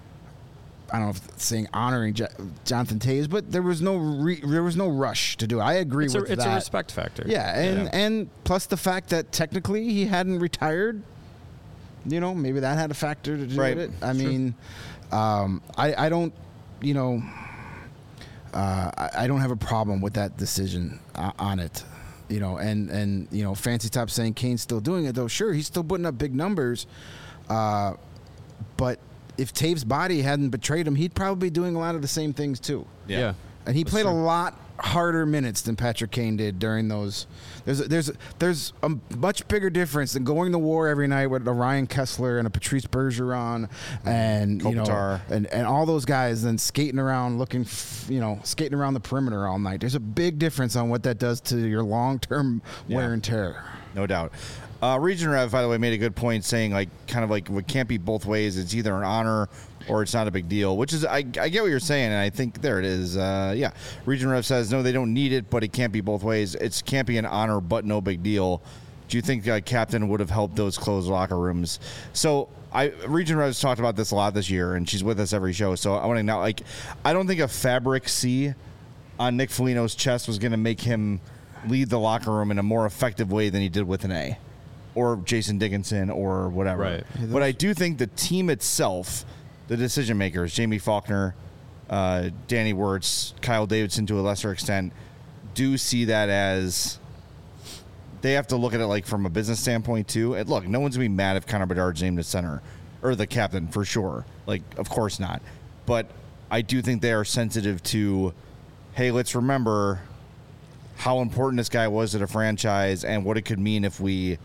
I don't know if it's saying honoring Jo- Jonathan Toews, but there was no re, there was no rush to do it. I agree It's, a, with it's that. a respect factor. Yeah, and and plus the fact that technically he hadn't retired. You know, maybe that had a factor to do Right. with it. I Sure. mean, um, I I don't, you know, uh, I, I don't have a problem with that decision uh, on it. You know, and and you know, Fancy Top saying Kane's still doing it though. Sure, he's still putting up big numbers, uh, but if Taves' body hadn't betrayed him, he'd probably be doing a lot of the same things too. Yeah. And he That's played a true. lot harder minutes than Patrick Kane did during those. There's there's there's a much bigger difference than going to war every night with a Ryan Kessler and a Patrice Bergeron and you know Kopitar. and, and all those guys than skating around looking f- you know skating around the perimeter all night. There's a big difference on what that does to your long term Yeah. wear and tear. No doubt. Uh, Region Rev, by the way, made a good point saying, like, kind of like, it can't be both ways. It's either an honor or it's not a big deal, which is, I, I get what you're saying, and I think there it is. Uh, yeah. Region Rev says, no, they don't need it, but it can't be both ways. It can't be an honor, but no big deal. Do you think uh, Captain would have helped those closed locker rooms? So, I Region Rev's talked about this a lot this year, and she's with us every show, so I want to know, like, I don't think a fabric C on Nick Foligno's chest was going to make him lead the locker room in a more effective way than he did with an A. Or Jason Dickinson or whatever. Right. But I do think the team itself, the decision makers, Jamie Faulkner, uh, Danny Wirtz, Kyle Davidson to a lesser extent, do see that as they have to look at it like from a business standpoint too. And look, no one's gonna be mad if Connor Bedard's named as center or the captain for sure. Like, of course not. But I do think they are sensitive to, hey, let's remember how important this guy was to the franchise and what it could mean if we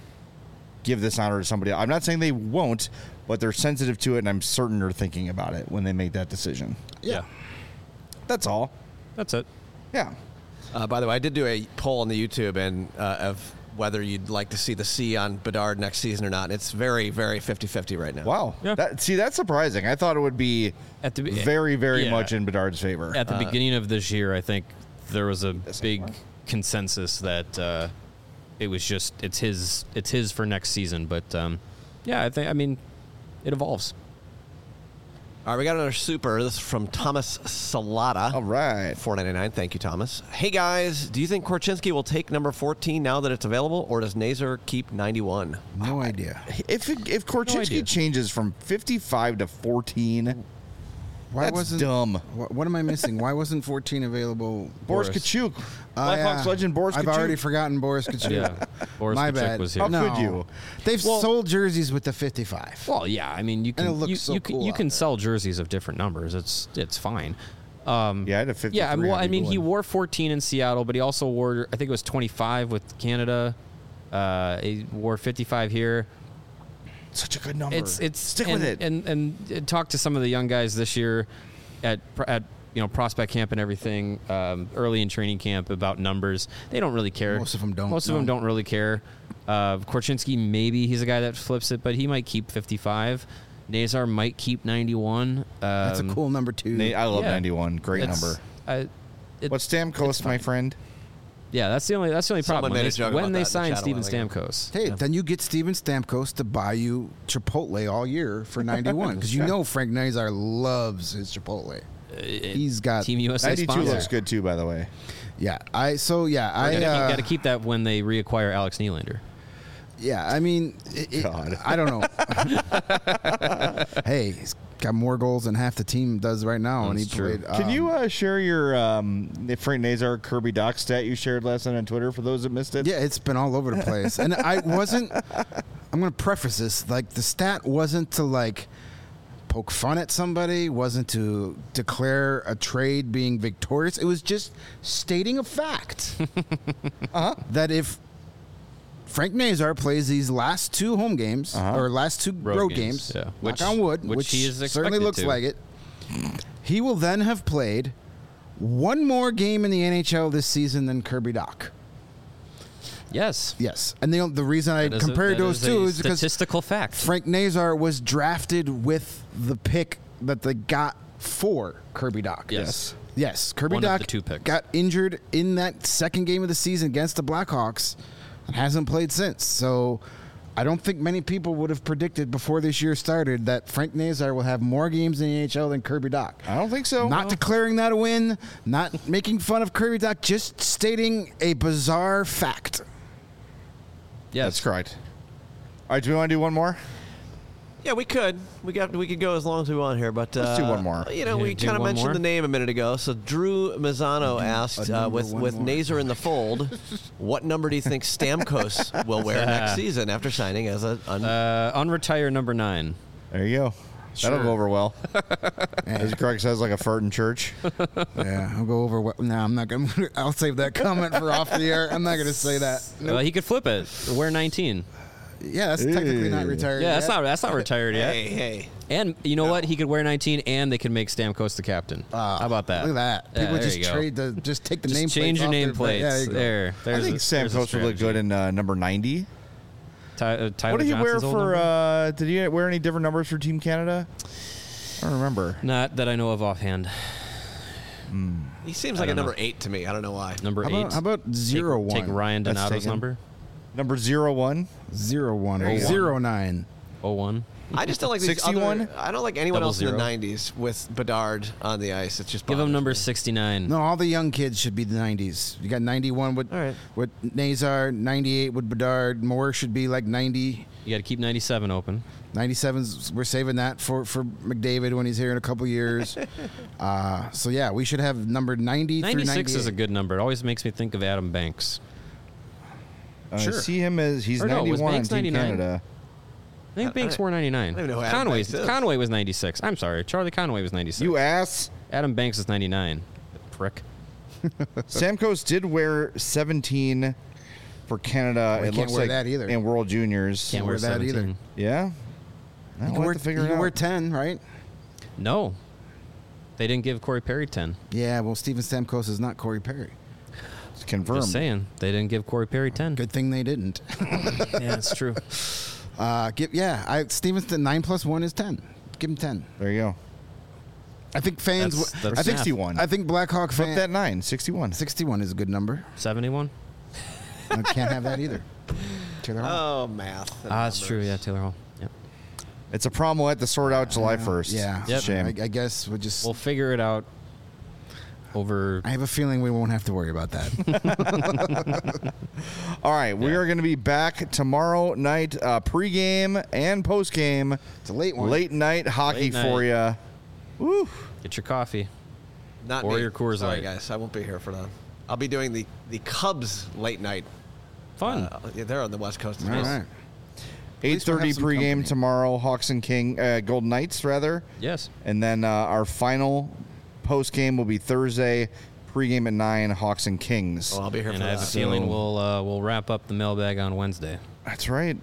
give this honor to somebody else. I'm not saying they won't, but they're sensitive to it, and I'm certain they're thinking about it when they make that decision. Yeah. That's all. That's it. Yeah. Uh, by the way, I did do a poll on the YouTube and uh, of whether you'd like to see the C on Bedard next season or not. It's very, very fifty-fifty right now. Wow. Yeah. That, see, that's surprising. I thought it would be At the be- very, very yeah. much in Bedard's favor. At the Uh, beginning of this year, I think there was a This big one? consensus that uh, it was just it's his it's his for next season. But um, yeah, I think I mean it evolves. All right, we got another super. This is from Thomas Salata. All right. four ninety-nine. Thank you, Thomas. Hey, guys. Do you think Korchinski will take number fourteen now that it's available, or does Nazar keep ninety-one? No idea. If it, if Korchinski idea. changes from fifty-five to fourteen, Why that's wasn't dumb. What, what am I missing? Why wasn't fourteen available? Boris Kachuk. Uh, Blackhawks yeah. legend Boris I've Kachuk. already forgotten Boris Kachuk. Yeah, Boris My Kachuk bad. was here. How No. could you? They've Well- sold jerseys with the fifty-five. Well, yeah, I mean you And can it looks you, so you can, cool you out can there. sell jerseys of different numbers. It's it's fine. Um, Yeah, I had a fifty-three. yeah, I mean, well, on I mean, he Eagle. wore fourteen in Seattle, but he also wore I think it was twenty-five with Canada. Uh, he wore fifty-five here. Such a good number. It's it's Stick and, with it. and and and talk to some of the young guys this year at at you know prospect camp and everything um, early in training camp about numbers. They don't really care. Most of them don't, Most of no. them don't really care. Uh, Korchinski, maybe he's a guy that flips it, but he might keep fifty-five. Nazar might keep ninety-one. Um, That's a cool number two. Nate, I love yeah. ninety-one. Great it's- number. I- it- What's Stamkos, my friend? yeah, that's the only that's the only Someone problem. made When a they, joke when about they that in the signed chat a while Steven ago. Stamkos. Hey, then you get Steven Stamkos to buy you Chipotle all year for ninety-one because you know Frank Nazar loves his Chipotle. He's got Team U S A ninety-two sponsor. looks good too, by the way. yeah. I so yeah. I You uh, got to keep that when they reacquire Alex Nylander. yeah. I mean, it, it- God. I don't know. Hey, he's got more goals than half the team does right now, and he That's true. played. Can um, you uh, share your um, Frank Nazar Kirby Doc stat you shared last night on Twitter for those that missed it? Yeah, it's been all over the place. And I wasn't I'm going to preface this like the stat wasn't to like poke fun at somebody, wasn't to declare a trade being victorious. It was just stating a fact. uh-huh. That if Frank Nazar plays these last two home games Uh-huh. or last two road, Road games, games, yeah. knock Which- on wood, which which, he is certainly expected looks to. like it, he will then have played one more game in the N H L this season than Kirby Doc. Yes. Yes, and the the reason I That is a- compared that those is two a is because statistical fact. Frank Nazar was drafted with the pick that they got for Kirby Doc. Yes. Yes, Kirby One of Doc the two picks. got injured in that second game of the season against the Blackhawks and hasn't played since. So I don't think many people would have predicted before this year started that Frank Nazar will have more games in the N H L than Kirby Doc. I don't think so. Not declaring that a win, not making fun of Kirby Doc, just stating a bizarre fact. Yes. That's correct. All right, do we want to do one more? Yeah, we could. We got. We could go as long as we want here, but uh, Let's do one more. You know, Yeah, we do kind of one mentioned more? the name a minute ago. So Drew Mazzano asked, a uh, number with one with more. Nazar in the fold, what number do you think Stamkos will wear next season after signing as a? Un- Uh, unretire number nine. There you go. That'll Sure. go over well. As Greg says, like a fart in church. Yeah, I'll go over what. No, I'm not going to. I'll save that comment for off the air. I'm not going to say that. Well, he could flip it. Wear nineteen. Yeah, that's technically not Ew. retired. Yeah, that's yet. not that's not retired yet. Hey, hey. And you know what? He could wear nineteen, and they could make Stamkos the captain. Ah, How about that? Look at that. Yeah, People there just you go. trade the. Just take the Just name. change your nameplates. Yeah, there you go. there. I There's think a, Sam there's a Coates would look good strategy. in uh, number ninety. Ty, uh, Tyler What did he wear Johnson's old for? number? Uh, did he wear any different numbers for Team Canada? I don't remember. Not that I know of offhand. He seems I like a don't know. number eight to me. I don't know why. Number How eight. about, how about zero take, one? Take Ryan That's Donato's taken. number. Number zero one. Zero one There or you go. zero nine. Oh one. I just don't like these sixty-one? other. I don't like anyone Double else in zero. the nineties with Bedard on the ice. It's just Give bothers him number me. sixty-nine. No, all the young kids should be the nineties. You got ninety-one with All right. with Nazar, ninety-eight with Bedard. Moore should be like ninety. You got to keep ninety-seven open. ninety-sevens, we're saving that for, for McDavid when he's here in a couple years. uh, so, yeah, we should have number ninety through ninety-six ninety-eight. is a good number. It always makes me think of Adam Banks. Uh, Sure. I see him as he's Or no, was ninety-one on Banks Team ninety-nine? Canada. I think I- Banks I- wore ninety-nine. I don't even know who Adam Conway, Banks is. Conway was ninety-six. I'm sorry. Charlie Conway was ninety-six. You ass. Adam Banks is ninety-nine. Prick. Samkos did wear seventeen for Canada. We it can't looks wear like that either. in World Juniors. Can't wear wear that either. seventeen. Yeah. You I'll can, wear, have to figure you it can out. wear ten, right? No. They didn't give Corey Perry ten. Yeah, well, Steven Stamkos is not Corey Perry. It's confirmed. Just saying. They didn't give Corey Perry ten. Good thing they didn't. Yeah, it's true. Uh, give, yeah, I, Steven's nine plus one is ten. Give him ten. There you go. I think fans. That's- w- that's I think math. sixty-one. I think Blackhawk Flip fans. that nine. sixty-one. sixty-one is a good number. seventy-one? I can't have that either. Taylor Hall. Oh, math. and Ah, that's true. numbers. Yeah, Taylor Hall. Yep. It's a problem we'll have to sort out July first. Yeah, It's a Yep. shame. I, I guess we'll just. We'll figure it out over. I have a feeling we won't have to worry about that. All right, we Yeah. are going to be back tomorrow night, uh, pregame and postgame. It's a late one. Late night hockey Late night. for you. Woo. Get your coffee. Not Or me. your Coors Sorry, Light. guys. I won't be here for that. I'll be doing the, the Cubs late night. Fun. Uh, yeah, they're on the West Coast. as All well. right. eight thirty have some pregame company. tomorrow, Hawks and King, uh, Golden Knights, rather. yes. And then uh, our final postgame will be Thursday, pregame at nine, Hawks and Kings. Oh, I'll be here And for I have a that. So- feeling we'll uh, we'll wrap up the mailbag on Wednesday. That's right.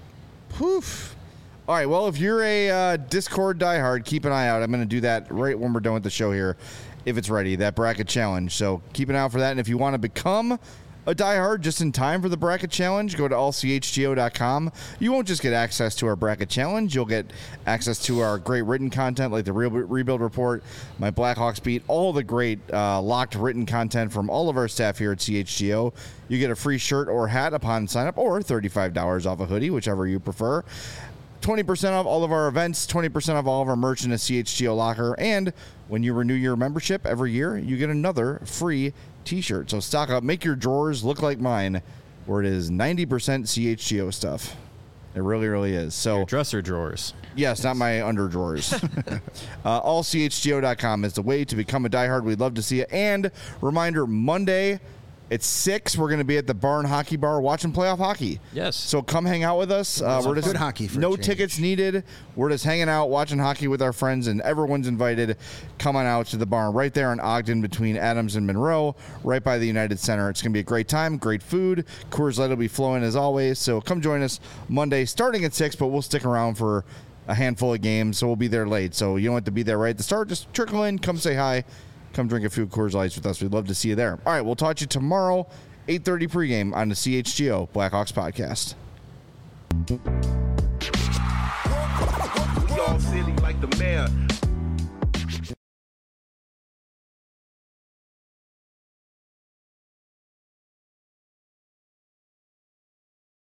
Poof. All right. Well, if you're a uh, Discord diehard, keep an eye out. I'm going to do that right when we're done with the show here, if it's ready, that bracket challenge. So keep an eye out for that. And if you want to become a diehard just in time for the bracket challenge, go to all c h g o dot com. You won't just get access to our bracket challenge. You'll get access to our great written content like the Real Rebuild Report, my Blackhawks Beat, all the great uh, locked written content from all of our staff here at C H G O. You get a free shirt or hat upon sign up, or thirty-five dollars off a hoodie, whichever you prefer. twenty percent off all of our events, twenty percent off all of our merch in the C H G O locker, and when you renew your membership every year, you get another free t-shirt. So stock up, make your drawers look like mine, where it is ninety percent C H G O stuff. It really, really is. So Dresser drawers. yes, not my under drawers. uh, all c h g o dot com is the way to become a diehard. We'd love to see it. And reminder, Monday at six, we're going to be at the Barn Hockey Bar watching playoff hockey. Yes. So come hang out with us. Uh, we're just good hockey for a no change. tickets needed. We're just hanging out, watching hockey with our friends, and everyone's invited. Come on out to the barn right there in Ogden between Adams and Monroe, right by the United Center. It's going to be a great time, great food. Coors Light will be flowing as always. So come join us Monday, starting at six, but we'll stick around for a handful of games, so we'll be there late. So you don't have to be there right at the start. Just trickle in, come say hi, come drink a few Coors Lights with us. We'd love to see you there. All right, we'll talk to you tomorrow, eight thirty pregame on the C H G O Blackhawks podcast. We all silly like the mayor.